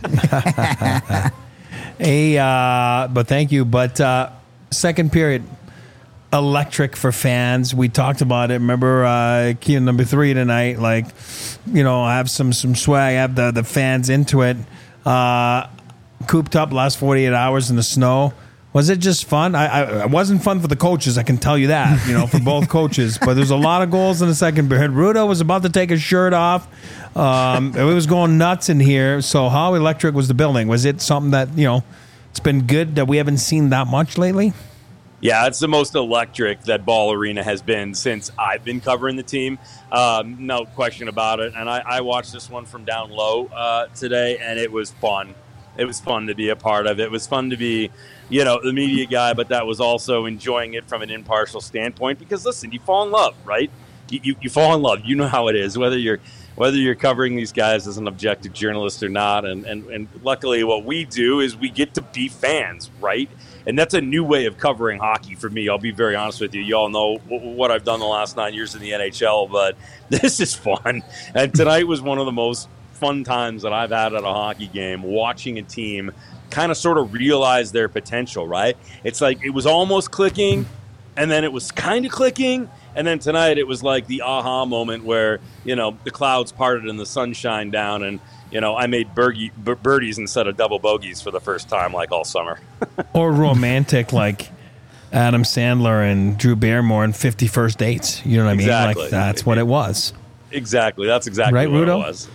But thank you. But second period, electric for fans. We talked about it. Remember, key number 3 tonight. Like, have some swag. Have the fans into it. Cooped up last 48 hours in the snow. Was it just fun? It wasn't fun for the coaches, I can tell you that, for both coaches. But there's a lot of goals in the second period. Rudo was about to take his shirt off. It was going nuts in here. So how electric was the building? Was it something that, it's been good that we haven't seen that much lately? Yeah, it's the most electric that Ball Arena has been since I've been covering the team. No question about it. And I watched this one from down low today, and it was fun. It was fun to be a part of. It was fun to be, the media guy, but that was also enjoying it from an impartial standpoint. Because listen, you fall in love, right? You fall in love. You know how it is, whether you're covering these guys as an objective journalist or not. And luckily, what we do is we get to be fans, right? And that's a new way of covering hockey for me. I'll be very honest with you. You all know what I've done the last 9 years in the NHL, but this is fun. And tonight was one of the most fun times that I've had at a hockey game, watching a team kind of sort of realize their potential, right? It's like it was almost clicking, and then it was kind of clicking, and then tonight it was like the aha moment where, the clouds parted and the sun shined down, and, I made birdies instead of double bogeys for the first time like all summer. Or romantic like Adam Sandler and Drew Barrymore in 50 First Dates. You know what I mean? Exactly. Like that's what it was. Exactly. That's exactly right, what Rudo? it was.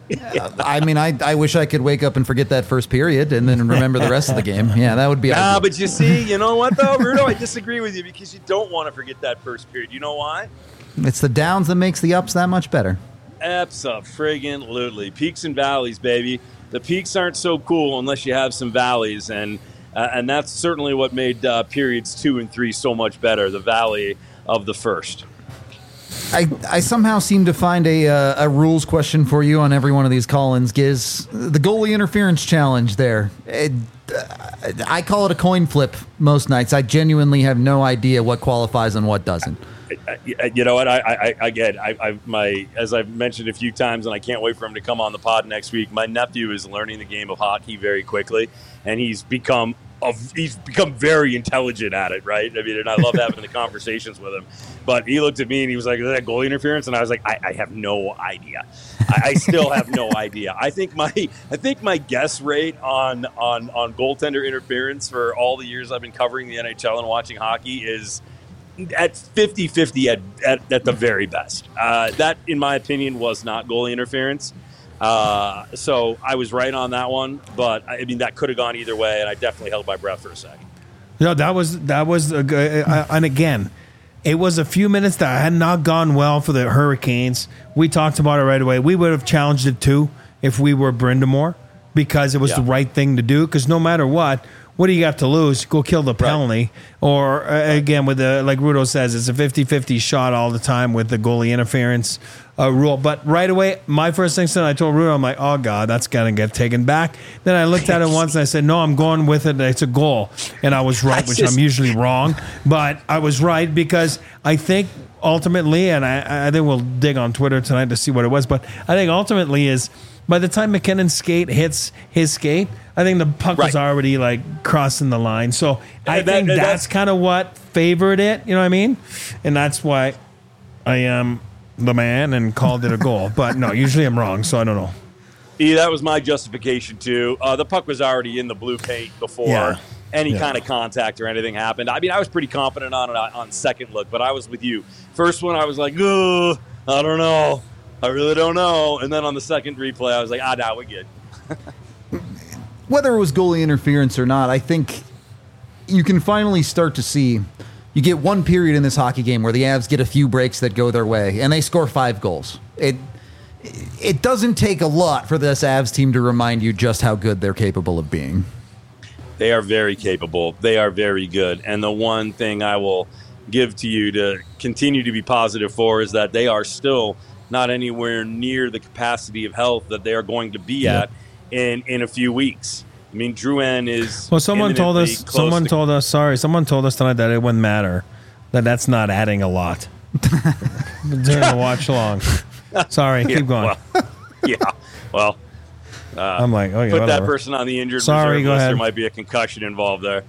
I mean, I wish I could wake up and forget that first period and then remember the rest of the game. Yeah, that would be ideal. But you see, you know what, though, Rudo? I disagree with you because you don't want to forget that first period. You know why? It's the downs that makes the ups that much better. Abso-friggin-lutely. Peaks and valleys, baby. The peaks aren't so cool unless you have some valleys, and that's certainly what made periods 2 and 3 so much better, the valley of the first. I somehow seem to find a rules question for you on every one of these call-ins, Giz. The goalie interference challenge there. I call it a coin flip most nights. I genuinely have no idea what qualifies and what doesn't. You know what? As I've mentioned a few times, and I can't wait for him to come on the pod next week. My nephew is learning the game of hockey very quickly, and he's become very intelligent at it, right? I mean, and I love having the conversations with him. But he looked at me and he was like, "Is that goalie interference?" And I was like, "I have no idea. I still have no idea." I think my guess rate on goaltender interference for all the years I've been covering the NHL and watching hockey is at 50-50 at the very best. That, in my opinion, was not goalie interference. So I was right on that one, but I mean that could have gone either way, and I definitely held my breath for a second. No, that was a good, and again, it was a few minutes that had not gone well for the Hurricanes. We talked about it right away. We would have challenged it too if we were Brind'Amour, because it was the right thing to do. Because no matter what do you got to lose? Go kill the penalty. Right. Or, again, with the, like Rudo says, it's a 50-50 shot all the time with the goalie interference rule. But right away, my first instinct, I told Rudo, I'm like, oh, God, that's going to get taken back. Then I looked at it once and I said, no, I'm going with it. It's a goal. And I was right, which I'm usually wrong. But I was right because I think ultimately, and I think we'll dig on Twitter tonight to see what it was, but I think ultimately is by the time McKinnon's skate hits his skate, I think the puck was already like crossing the line. So I think that's kind of what favored it. You know what I mean? And that's why I am the man and called it a goal. But no, usually I'm wrong, so I don't know. Yeah, that was my justification too. The puck was already in the blue paint before any kind of contact or anything happened. I mean, I was pretty confident on it on second look, but I was with you. First one, I was like, oh, I don't know. I really don't know. And then on the second replay, I was like, no, we're good. Whether it was goalie interference or not, I think you can finally start to see, you get one period in this hockey game where the Avs get a few breaks that go their way, and they score 5 goals. It doesn't take a lot for this Avs team to remind you just how good they're capable of being. They are very capable. They are very good. And the one thing I will give to you to continue to be positive for is that they are still not anywhere near the capacity of health that they are going to be at in a few weeks. I mean, Drouin is. Well, someone told us tonight that it wouldn't matter, that's not adding a lot during the watch long. Sorry, keep going. I'm like, okay, put whatever. that person on the injured reserve list. There might be a concussion involved there.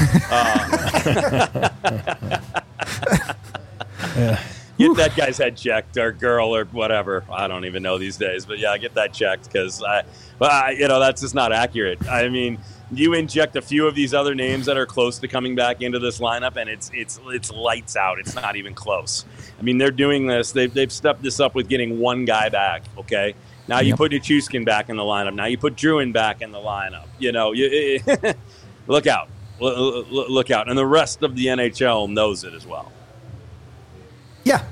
Get that guy's head checked, or girl, or whatever. I don't even know these days, but yeah, get that checked because that's just not accurate. I mean, you inject a few of these other names that are close to coming back into this lineup, and it's lights out. It's not even close. I mean, they're doing this. They've stepped this up with getting one guy back. Okay, now you put Nichushkin back in the lineup. Now you put Drouin back in the lineup. You know, look out, look out, and the rest of the NHL knows it as well. Yeah,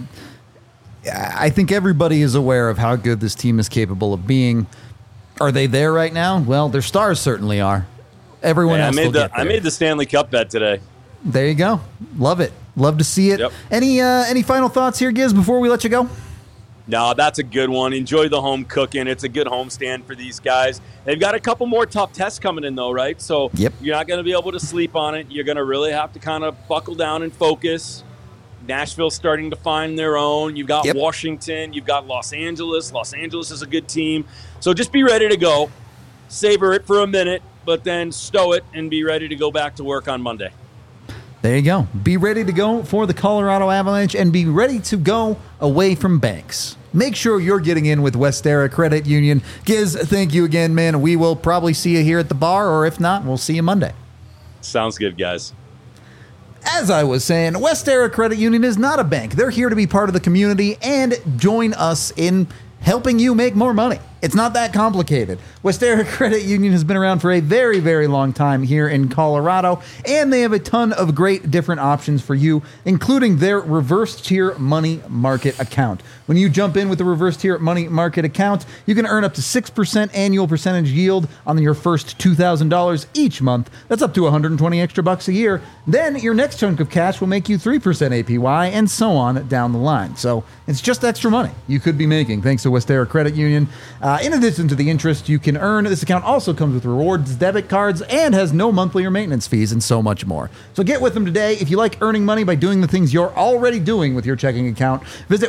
I think everybody is aware of how good this team is capable of being. Are they there right now? Well, their stars certainly are. Everyone else will get there. I made the Stanley Cup bet today. There you go. Love it. Love to see it. Yep. Any final thoughts here, Giz, before we let you go? No, that's a good one. Enjoy the home cooking. It's a good homestand for these guys. They've got a couple more tough tests coming in, though, right? So you're not going to be able to sleep on it. You're going to really have to kind of buckle down and focus. Nashville's starting to find their own. You've got Washington. You've got Los Angeles. Los Angeles is a good team. So just be ready to go. Savor it for a minute, but then stow it and be ready to go back to work on Monday. There you go. Be ready to go for the Colorado Avalanche and be ready to go away from banks. Make sure you're getting in with Westera Credit Union. Giz, thank you again, man. We will probably see you here at the bar, or if not, we'll see you Monday. Sounds good, guys. As I was saying, Westera Credit Union is not a bank. They're here to be part of the community and join us in helping you make more money. It's not that complicated. Westera Credit Union has been around for a very, very long time here in Colorado, and they have a ton of great different options for you, including their reverse tier money market account. When you jump in with the reverse tier money market account, you can earn up to 6% annual percentage yield on your first $2,000 each month. That's up to 120 extra bucks a year. Then your next chunk of cash will make you 3% APY, and so on down the line. So it's just extra money you could be making thanks to Westera Credit Union. In addition to the interest you can earn, this account also comes with rewards, debit cards, and has no monthly or maintenance fees, and so much more. So get with them today. If you like earning money by doing the things you're already doing with your checking account, visit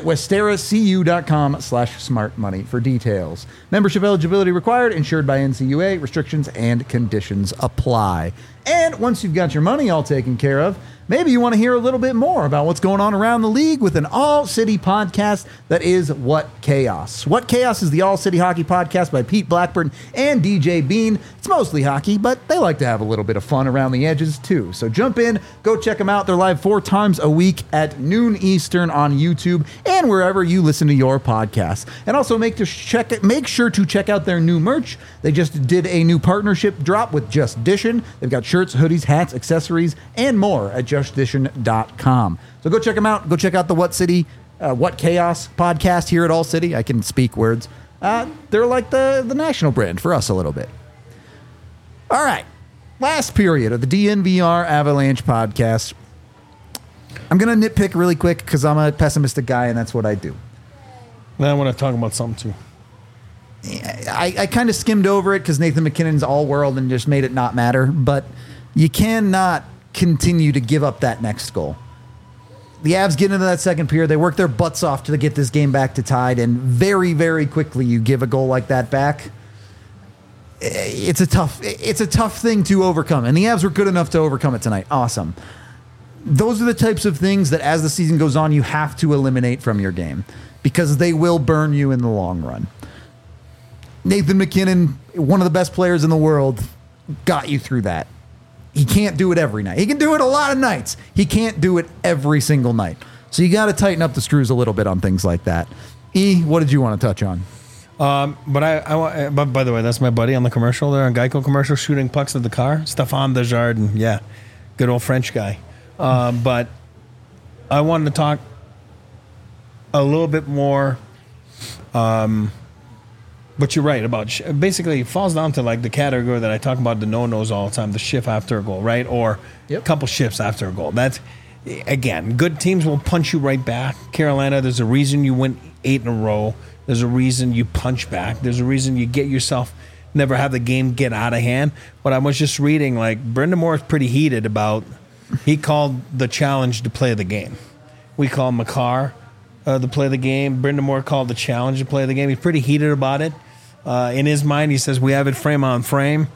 westeracu.com/smartmoney for details. Membership eligibility required, insured by NCUA. Restrictions and conditions apply. And once you've got your money all taken care of, maybe you want to hear a little bit more about what's going on around the league with an all-city podcast that is What Chaos. What Chaos is the all-city hockey podcast by Pete Blackburn and DJ Bean. It's mostly hockey, but they like to have a little bit of fun around the edges too. So jump in, go check them out. They're live 4 times a week at noon Eastern on YouTube and wherever you listen to your podcasts. And also make sure to check out their new merch. They just did a new partnership drop with Just Dishin'. They've got shirts, hoodies, hats, accessories, and more at justdishin.com. So go check them out. Go check out the What Chaos podcast here at All City. I can speak words. They're like the national brand for us a little bit. All right. Last period of the DNVR Avalanche podcast. I'm going to nitpick really quick because I'm a pessimistic guy and that's what I do. Now I want to talk about something too. I kind of skimmed over it because Nathan MacKinnon's all world and just made it not matter, but you cannot continue to give up that next goal. The Avs get into that second period. They work their butts off to get this game back to tied, and very, very quickly you give a goal like that back. It's a tough thing to overcome, and the Avs were good enough to overcome it tonight. Awesome. Those are the types of things that as the season goes on, you have to eliminate from your game because they will burn you in the long run. Nathan MacKinnon, one of the best players in the world, got you through that. He can't do it every night. He can do it a lot of nights. He can't do it every single night. So you got to tighten up the screws a little bit on things like that. What did you want to touch on? But by the way, that's my buddy on the commercial there, on Geico commercial, shooting pucks at the car, Stéphane Desjardins. Yeah, good old French guy. But I wanted to talk a little bit more. But you're right about basically it falls down to like the category that I talk about, the no-nos all the time, the shift after a goal, right? Or a couple shifts after a goal. That's, again, good teams will punch you right back. Carolina, there's a reason you win 8 in a row. There's a reason you punch back. There's a reason you get yourself, never have the game get out of hand. But I was just reading, like, Brendan Moore is pretty heated about, he called the challenge to play the game. We call Makar to play the game. Brendan Moore called the challenge to play the game. He's pretty heated about it. In his mind, he says we have it frame on frame,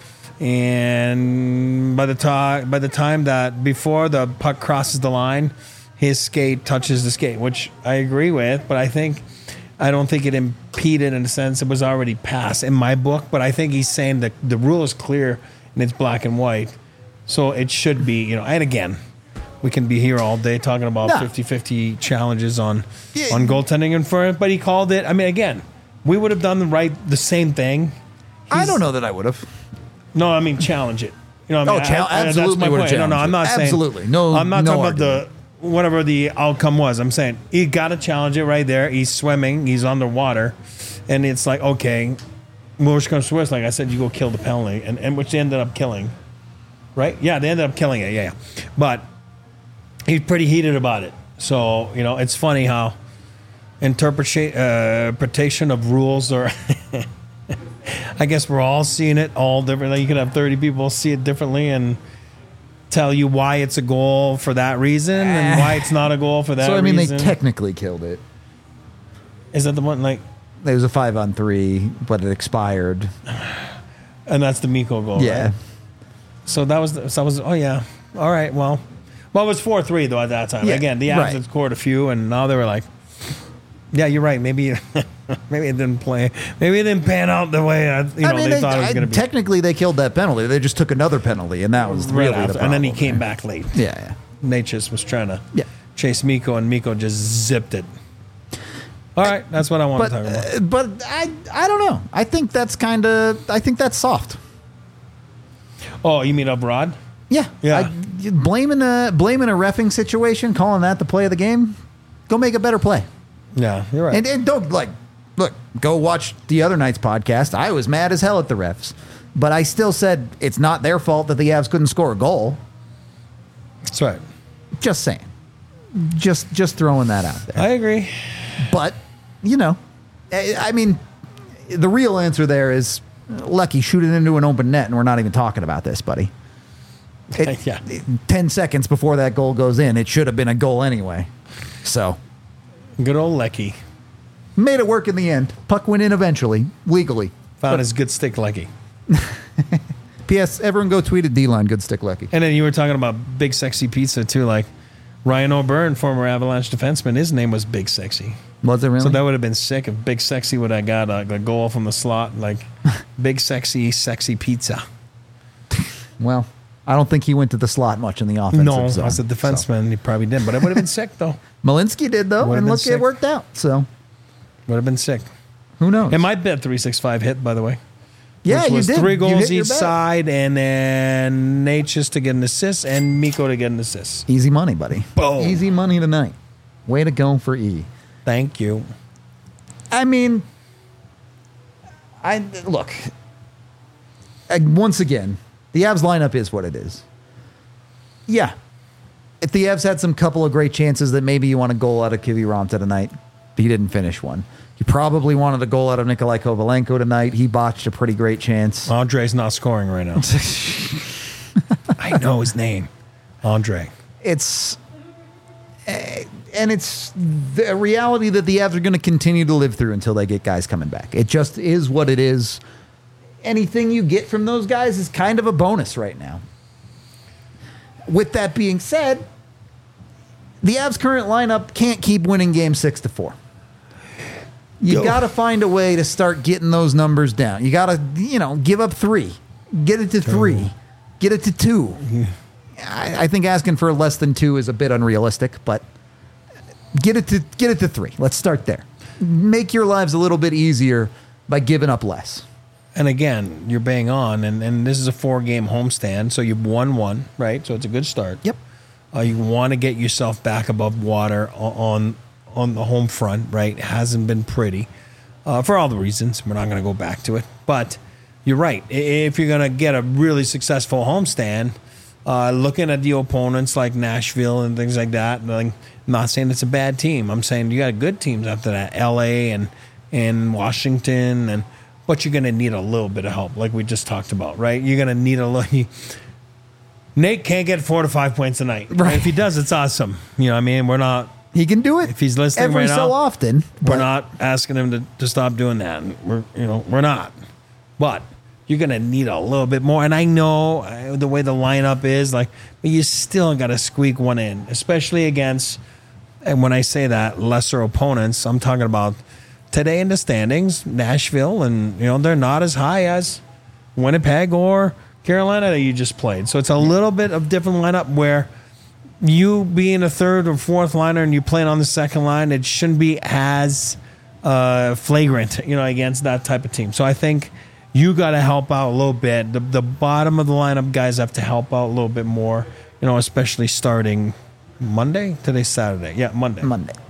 and by the time that before the puck crosses the line, his skate touches the skate, which I agree with. But I don't think it impeded in a sense. It was already passed in my book. But I think he's saying that the rule is clear and it's black and white, so it should be. And again, we can be here all day talking about 50-50 challenges on goaltending and for it. But he called it. I mean, again. We would have done the same thing. I don't know that I would have. No, I mean challenge it. You know what I mean? Absolutely. That's my point. No, I'm not saying. Absolutely. No, I'm not talking argument. about whatever the outcome was. I'm saying he got to challenge it right there. He's swimming. He's underwater, and it's like, okay, worst comes to worst. Like I said, you go kill the penalty, and which they ended up killing, right? Yeah, they ended up killing it. Yeah. But he's pretty heated about it. So it's funny how interpretation of rules are. I guess we're all seeing it all differently. You could have 30 people see it differently and tell you why it's a goal for that reason and why it's not a goal for that reason. So, I mean, they technically killed it. Is that the one, like... It was a 5-on-3, but it expired. And that's the Mikko goal, yeah. Right? So that was, oh, yeah. All right, well, it was 4-3, though, at that time. Yeah, again, the Avs had scored a few, and now they were like, yeah, you're right. Maybe it didn't play. Maybe it didn't pan out the way they thought it was going to be. Technically, they killed that penalty. They just took another penalty, and that was really the problem. And then he came back late. Yeah. Nate just was trying to chase Mikko, and Mikko just zipped it. All right, that's what I want to talk about. But I don't know. I think that's soft. Oh, you mean abroad? Yeah. Blaming a reffing situation, calling that the play of the game. Go make a better play. Yeah, you're right. And don't look. Go watch the other night's podcast. I was mad as hell at the refs, but I still said it's not their fault that the Avs couldn't score a goal. That's right. Just saying. Just throwing that out there. I agree. But, I mean, the real answer there is, Lucky, shoot it into an open net, and we're not even talking about this, buddy. 10 seconds before that goal goes in, it should have been a goal anyway. So. Good old Lecky. Made it work in the end. Puck went in eventually, legally. Found his good stick Lecky. P.S. Everyone go tweet at D-Line, good stick Lecky. And then you were talking about Big Sexy Pizza, too. Like, Ryan O'Byrne, former Avalanche defenseman, his name was Big Sexy. Was it really? So that would have been sick if Big Sexy would have got a goal from the slot, like Big Sexy Pizza. Well, I don't think he went to the slot much in the offensive zone. As a defenseman, he probably did, but it would have been sick, though. Malinsky did, though, and look, it worked out. So would have been sick. Who knows? And my bet 365 hit, by the way. Yeah, which was you did. 3 goals each side, and then Nate just to get an assist, and Mikko to get an assist. Easy money, buddy. Boom. Easy money tonight. Way to go for E. Thank you. I mean, look. Once again, the Avs lineup is what it is. Yeah. If the Avs had some couple of great chances that maybe you want a goal out of Kiviranta tonight, but he didn't finish one. You probably wanted a goal out of Nikolai Kovalenko tonight. He botched a pretty great chance. Andre's not scoring right now. I know his name. Andre. It's the reality that the Avs are going to continue to live through until they get guys coming back. It just is what it is. Anything you get from those guys is kind of a bonus right now. With that being said, the Avs' current lineup can't keep winning game 6-4. You got to find a way to start getting those numbers down. You got to, give up 3. Get it to 3. Get it to 2. I think asking for less than 2 is a bit unrealistic, but get it to 3. Let's start there. Make your lives a little bit easier by giving up less. And again, you're bang on, and this is a 4-game homestand, so you've won 1, right? So it's a good start. Yep. You want to get yourself back above water on the home front, right? It hasn't been pretty for all the reasons. We're not going to go back to it. But you're right. If you're going to get a really successful homestand, looking at the opponents like Nashville and things like that, I'm not saying it's a bad team. I'm saying you got good teams after that, L.A. and Washington, but you're going to need a little bit of help, like we just talked about, right? You're going to need a little... Nate can't get 4 to 5 points tonight. Right. If he does, it's awesome. You know what I mean? We're not... He can do it. If he's listening every right now, so often. We're not asking him to stop doing that. We're not. But you're going to need a little bit more. And I know the way the lineup is, but you still got to squeak one in, especially against, and when I say that, lesser opponents, I'm talking about today in the standings, Nashville, and they're not as high as Winnipeg or Carolina that you just played. So it's a little bit of different lineup where you being a third or fourth liner and you playing on the second line, it shouldn't be as flagrant, against that type of team. So I think you got to help out a little bit. The bottom of the lineup guys have to help out a little bit more, especially starting Monday. Today's Saturday. Yeah, Monday.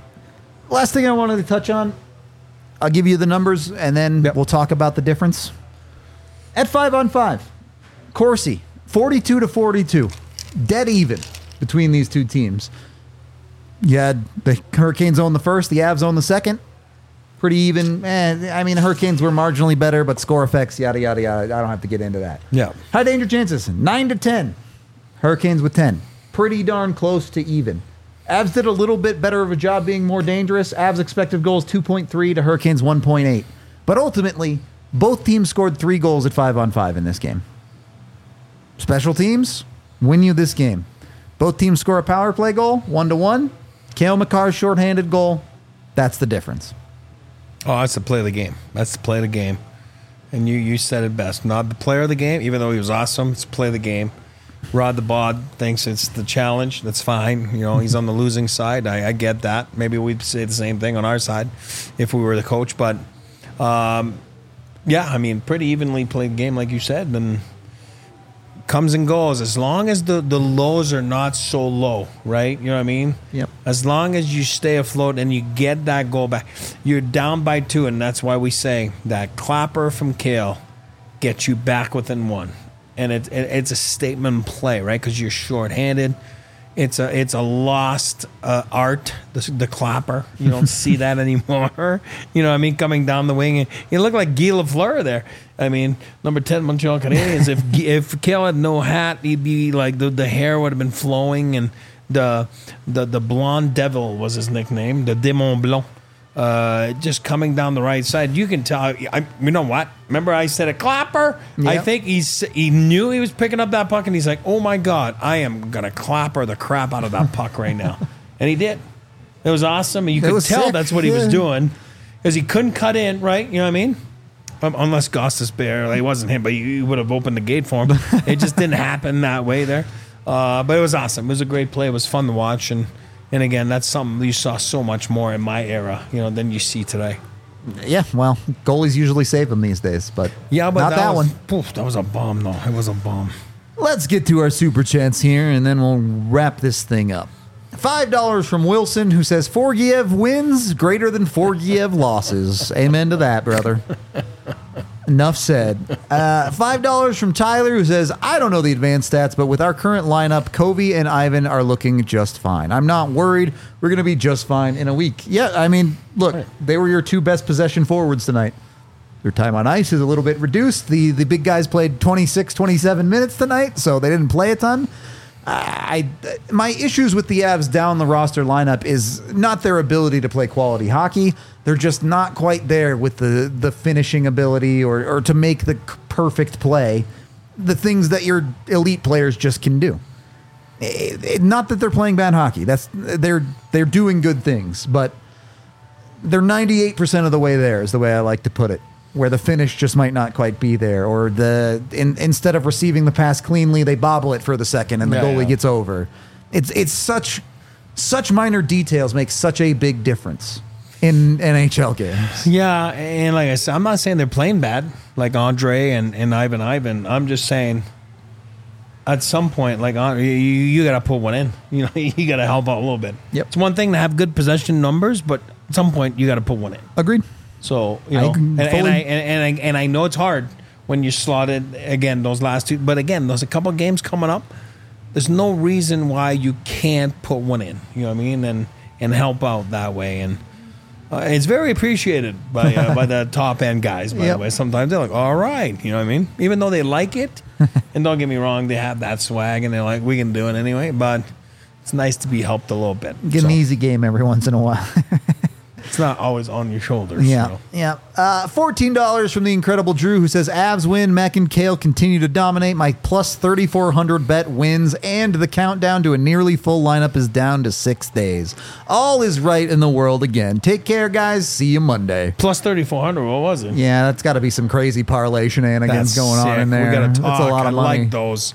Last thing I wanted to touch on, I'll give you the numbers and then we'll talk about the difference. At 5-on-5, Corsi, 42-42, dead even between these two teams. You had the Hurricanes own the first, the Avs own the second. Pretty even. The Hurricanes were marginally better, but score effects, yada, yada, yada. I don't have to get into that. Yeah. High danger chances, 9-10. Hurricanes with 10. Pretty darn close to even. Avs did a little bit better of a job being more dangerous. Avs expected goals 2.3 to Hurricanes 1.8. But ultimately, both teams scored 3 goals at 5-on-5 in this game. Special teams win you this game. Both teams score a power play goal, 1-1. Cale Makar's shorthanded goal. That's the difference. Oh, that's the play of the game. That's the play of the game. And you said it best. Not the player of the game, even though he was awesome. It's the play of the game. Rod the Bod thinks it's the challenge. That's fine. You know, he's on the losing side. I get that. Maybe we'd say the same thing on our side if we were the coach. But, yeah, I mean, pretty evenly played game, like you said. And comes and goes. As long as the lows are not so low, right? You know what I mean? Yep. As long as you stay afloat and you get that goal back. You're down by 2, and that's why we say that clapper from Kale gets you back within 1. And it's a statement play, right? Because you're shorthanded. It's a lost art, the clapper. You don't see that anymore. You know what I mean? Coming down the wing. You look like Guy Lafleur there. I mean, number 10 Montreal Canadiens. if Kale had no hat, he'd be like, the hair would have been flowing. And the Blonde Devil was his nickname, the Démon Blanc. Just coming down the right side, you can tell. You know what? Remember, I said a clapper. Yep. I think he knew he was picking up that puck, and he's like, "Oh my god, I am gonna clapper the crap out of that puck right now," and he did. It was awesome, and you could tell sick. that's what he was doing because he couldn't cut in, right? You know what I mean? Unless Gostis Bear, like, it wasn't him, but you would have opened the gate for him. It just didn't happen that way there. But it was awesome. It was a great play. It was fun to watch, and again, that's something you saw so much more in my era, you know, than you see today. Yeah, well, goalies usually save them these days, but yeah, but not that one. Poof, that was a bomb, though. It was a bomb. Let's get to our super chats here, and then we'll wrap this thing up. $5 from Wilson, who says Forgiev wins greater than Forgiev losses. Amen to that, brother. Enough said. $5 from Tyler, who says, I don't know the advanced stats, but with our current lineup, Covey and Ivan are looking just fine. I'm not worried. We're going to be just fine in a week. Yeah, I mean, look, they were your 2 best possession forwards tonight. Their time on ice is a little bit reduced. The big guys played 26, 27 minutes tonight, so they didn't play a ton. My issues with the Avs down the roster lineup is not their ability to play quality hockey. They're just not quite there with the finishing ability or to make the perfect play, the things that your elite players just can do. Not that they're playing bad hockey. They're doing good things, but they're 98% of the way there is the way I like to put it, where the finish just might not quite be there, or instead of receiving the pass cleanly, they bobble it for the second and the goalie gets over. It's such minor details make such a big difference in NHL games. Yeah, and like I said, I'm not saying they're playing bad, like Andre and Ivan. I'm just saying at some point, like, you got to put one in. You know, you got to help out a little bit. Yep. It's one thing to have good possession numbers, but at some point you got to put one in. Agreed. So, you know, and I know it's hard when you're slotted again those last 2, but again, there's a couple of games coming up. There's no reason why you can't put one in. You know what I mean, and help out that way. And it's very appreciated by the top end guys. By the way, sometimes they're like, "All right," you know what I mean, even though they like it. And don't get me wrong, they have that swag, and they're like, "We can do it anyway." But it's nice to be helped a little bit. Get an easy game every once in a while. It's not always on your shoulders. Yeah, so. yeah. $14 from the Incredible Drew, who says, Avs win, Mac and Kale continue to dominate. My plus 3,400 bet wins, and the countdown to a nearly full lineup is down to 6 days. All is right in the world again. Take care, guys. See you Monday. Plus 3,400, what was it? Yeah, that's got to be some crazy parlay shenanigans going on in there. We got to talk. That's a lot of money. I like those.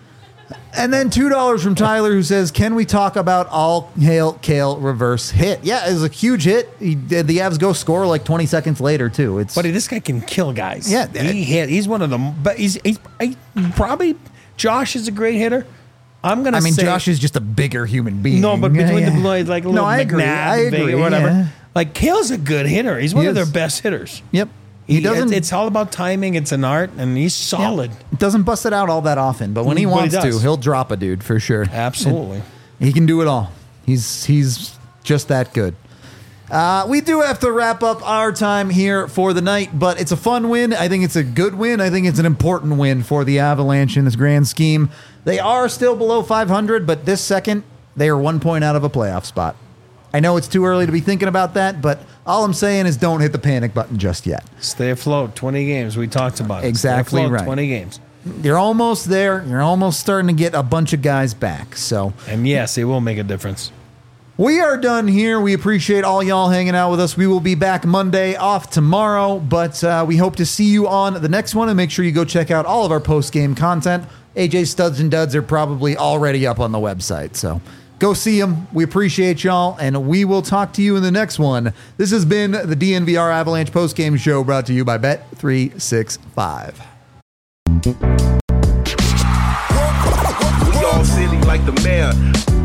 And then $2 from Tyler, who says, can we talk about all hail Kale reverse hit? Yeah, it was a huge hit. The Avs go score like 20 seconds later, too. Buddy, this guy can kill guys. Yeah. He's one of them. But he's probably, Josh is a great hitter. I'm going to say. Josh is just a bigger human being. No, but between the blades, like a little McNabb or whatever. Yeah. Like, Kale's a good hitter. He's one of their best hitters. Yep. He doesn't. It's all about timing. It's an art, and he's solid. Yeah. Doesn't bust it out all that often, but when he wants to, he'll drop a dude for sure. Absolutely, and he can do it all. He's just that good. We do have to wrap up our time here for the night, but it's a fun win. I think it's a good win. I think it's an important win for the Avalanche in this grand scheme. They are still below 500, but this second they are 1 point out of a playoff spot. I know it's too early to be thinking about that, but all I'm saying is don't hit the panic button just yet. Stay afloat. 20 games. We talked about it. Exactly Stay afloat, right. 20 games. You're almost there. You're almost starting to get a bunch of guys back. And yes, it will make a difference. We are done here. We appreciate all y'all hanging out with us. We will be back Monday, off tomorrow, but we hope to see you on the next one. And make sure you go check out all of our post-game content AJ Studs and Duds are probably already up on the website. So go see them. We appreciate y'all, and we will talk to you in the next one. This has been the DNVR Avalanche postgame show brought to you by Bet365. We all silly like the mayor.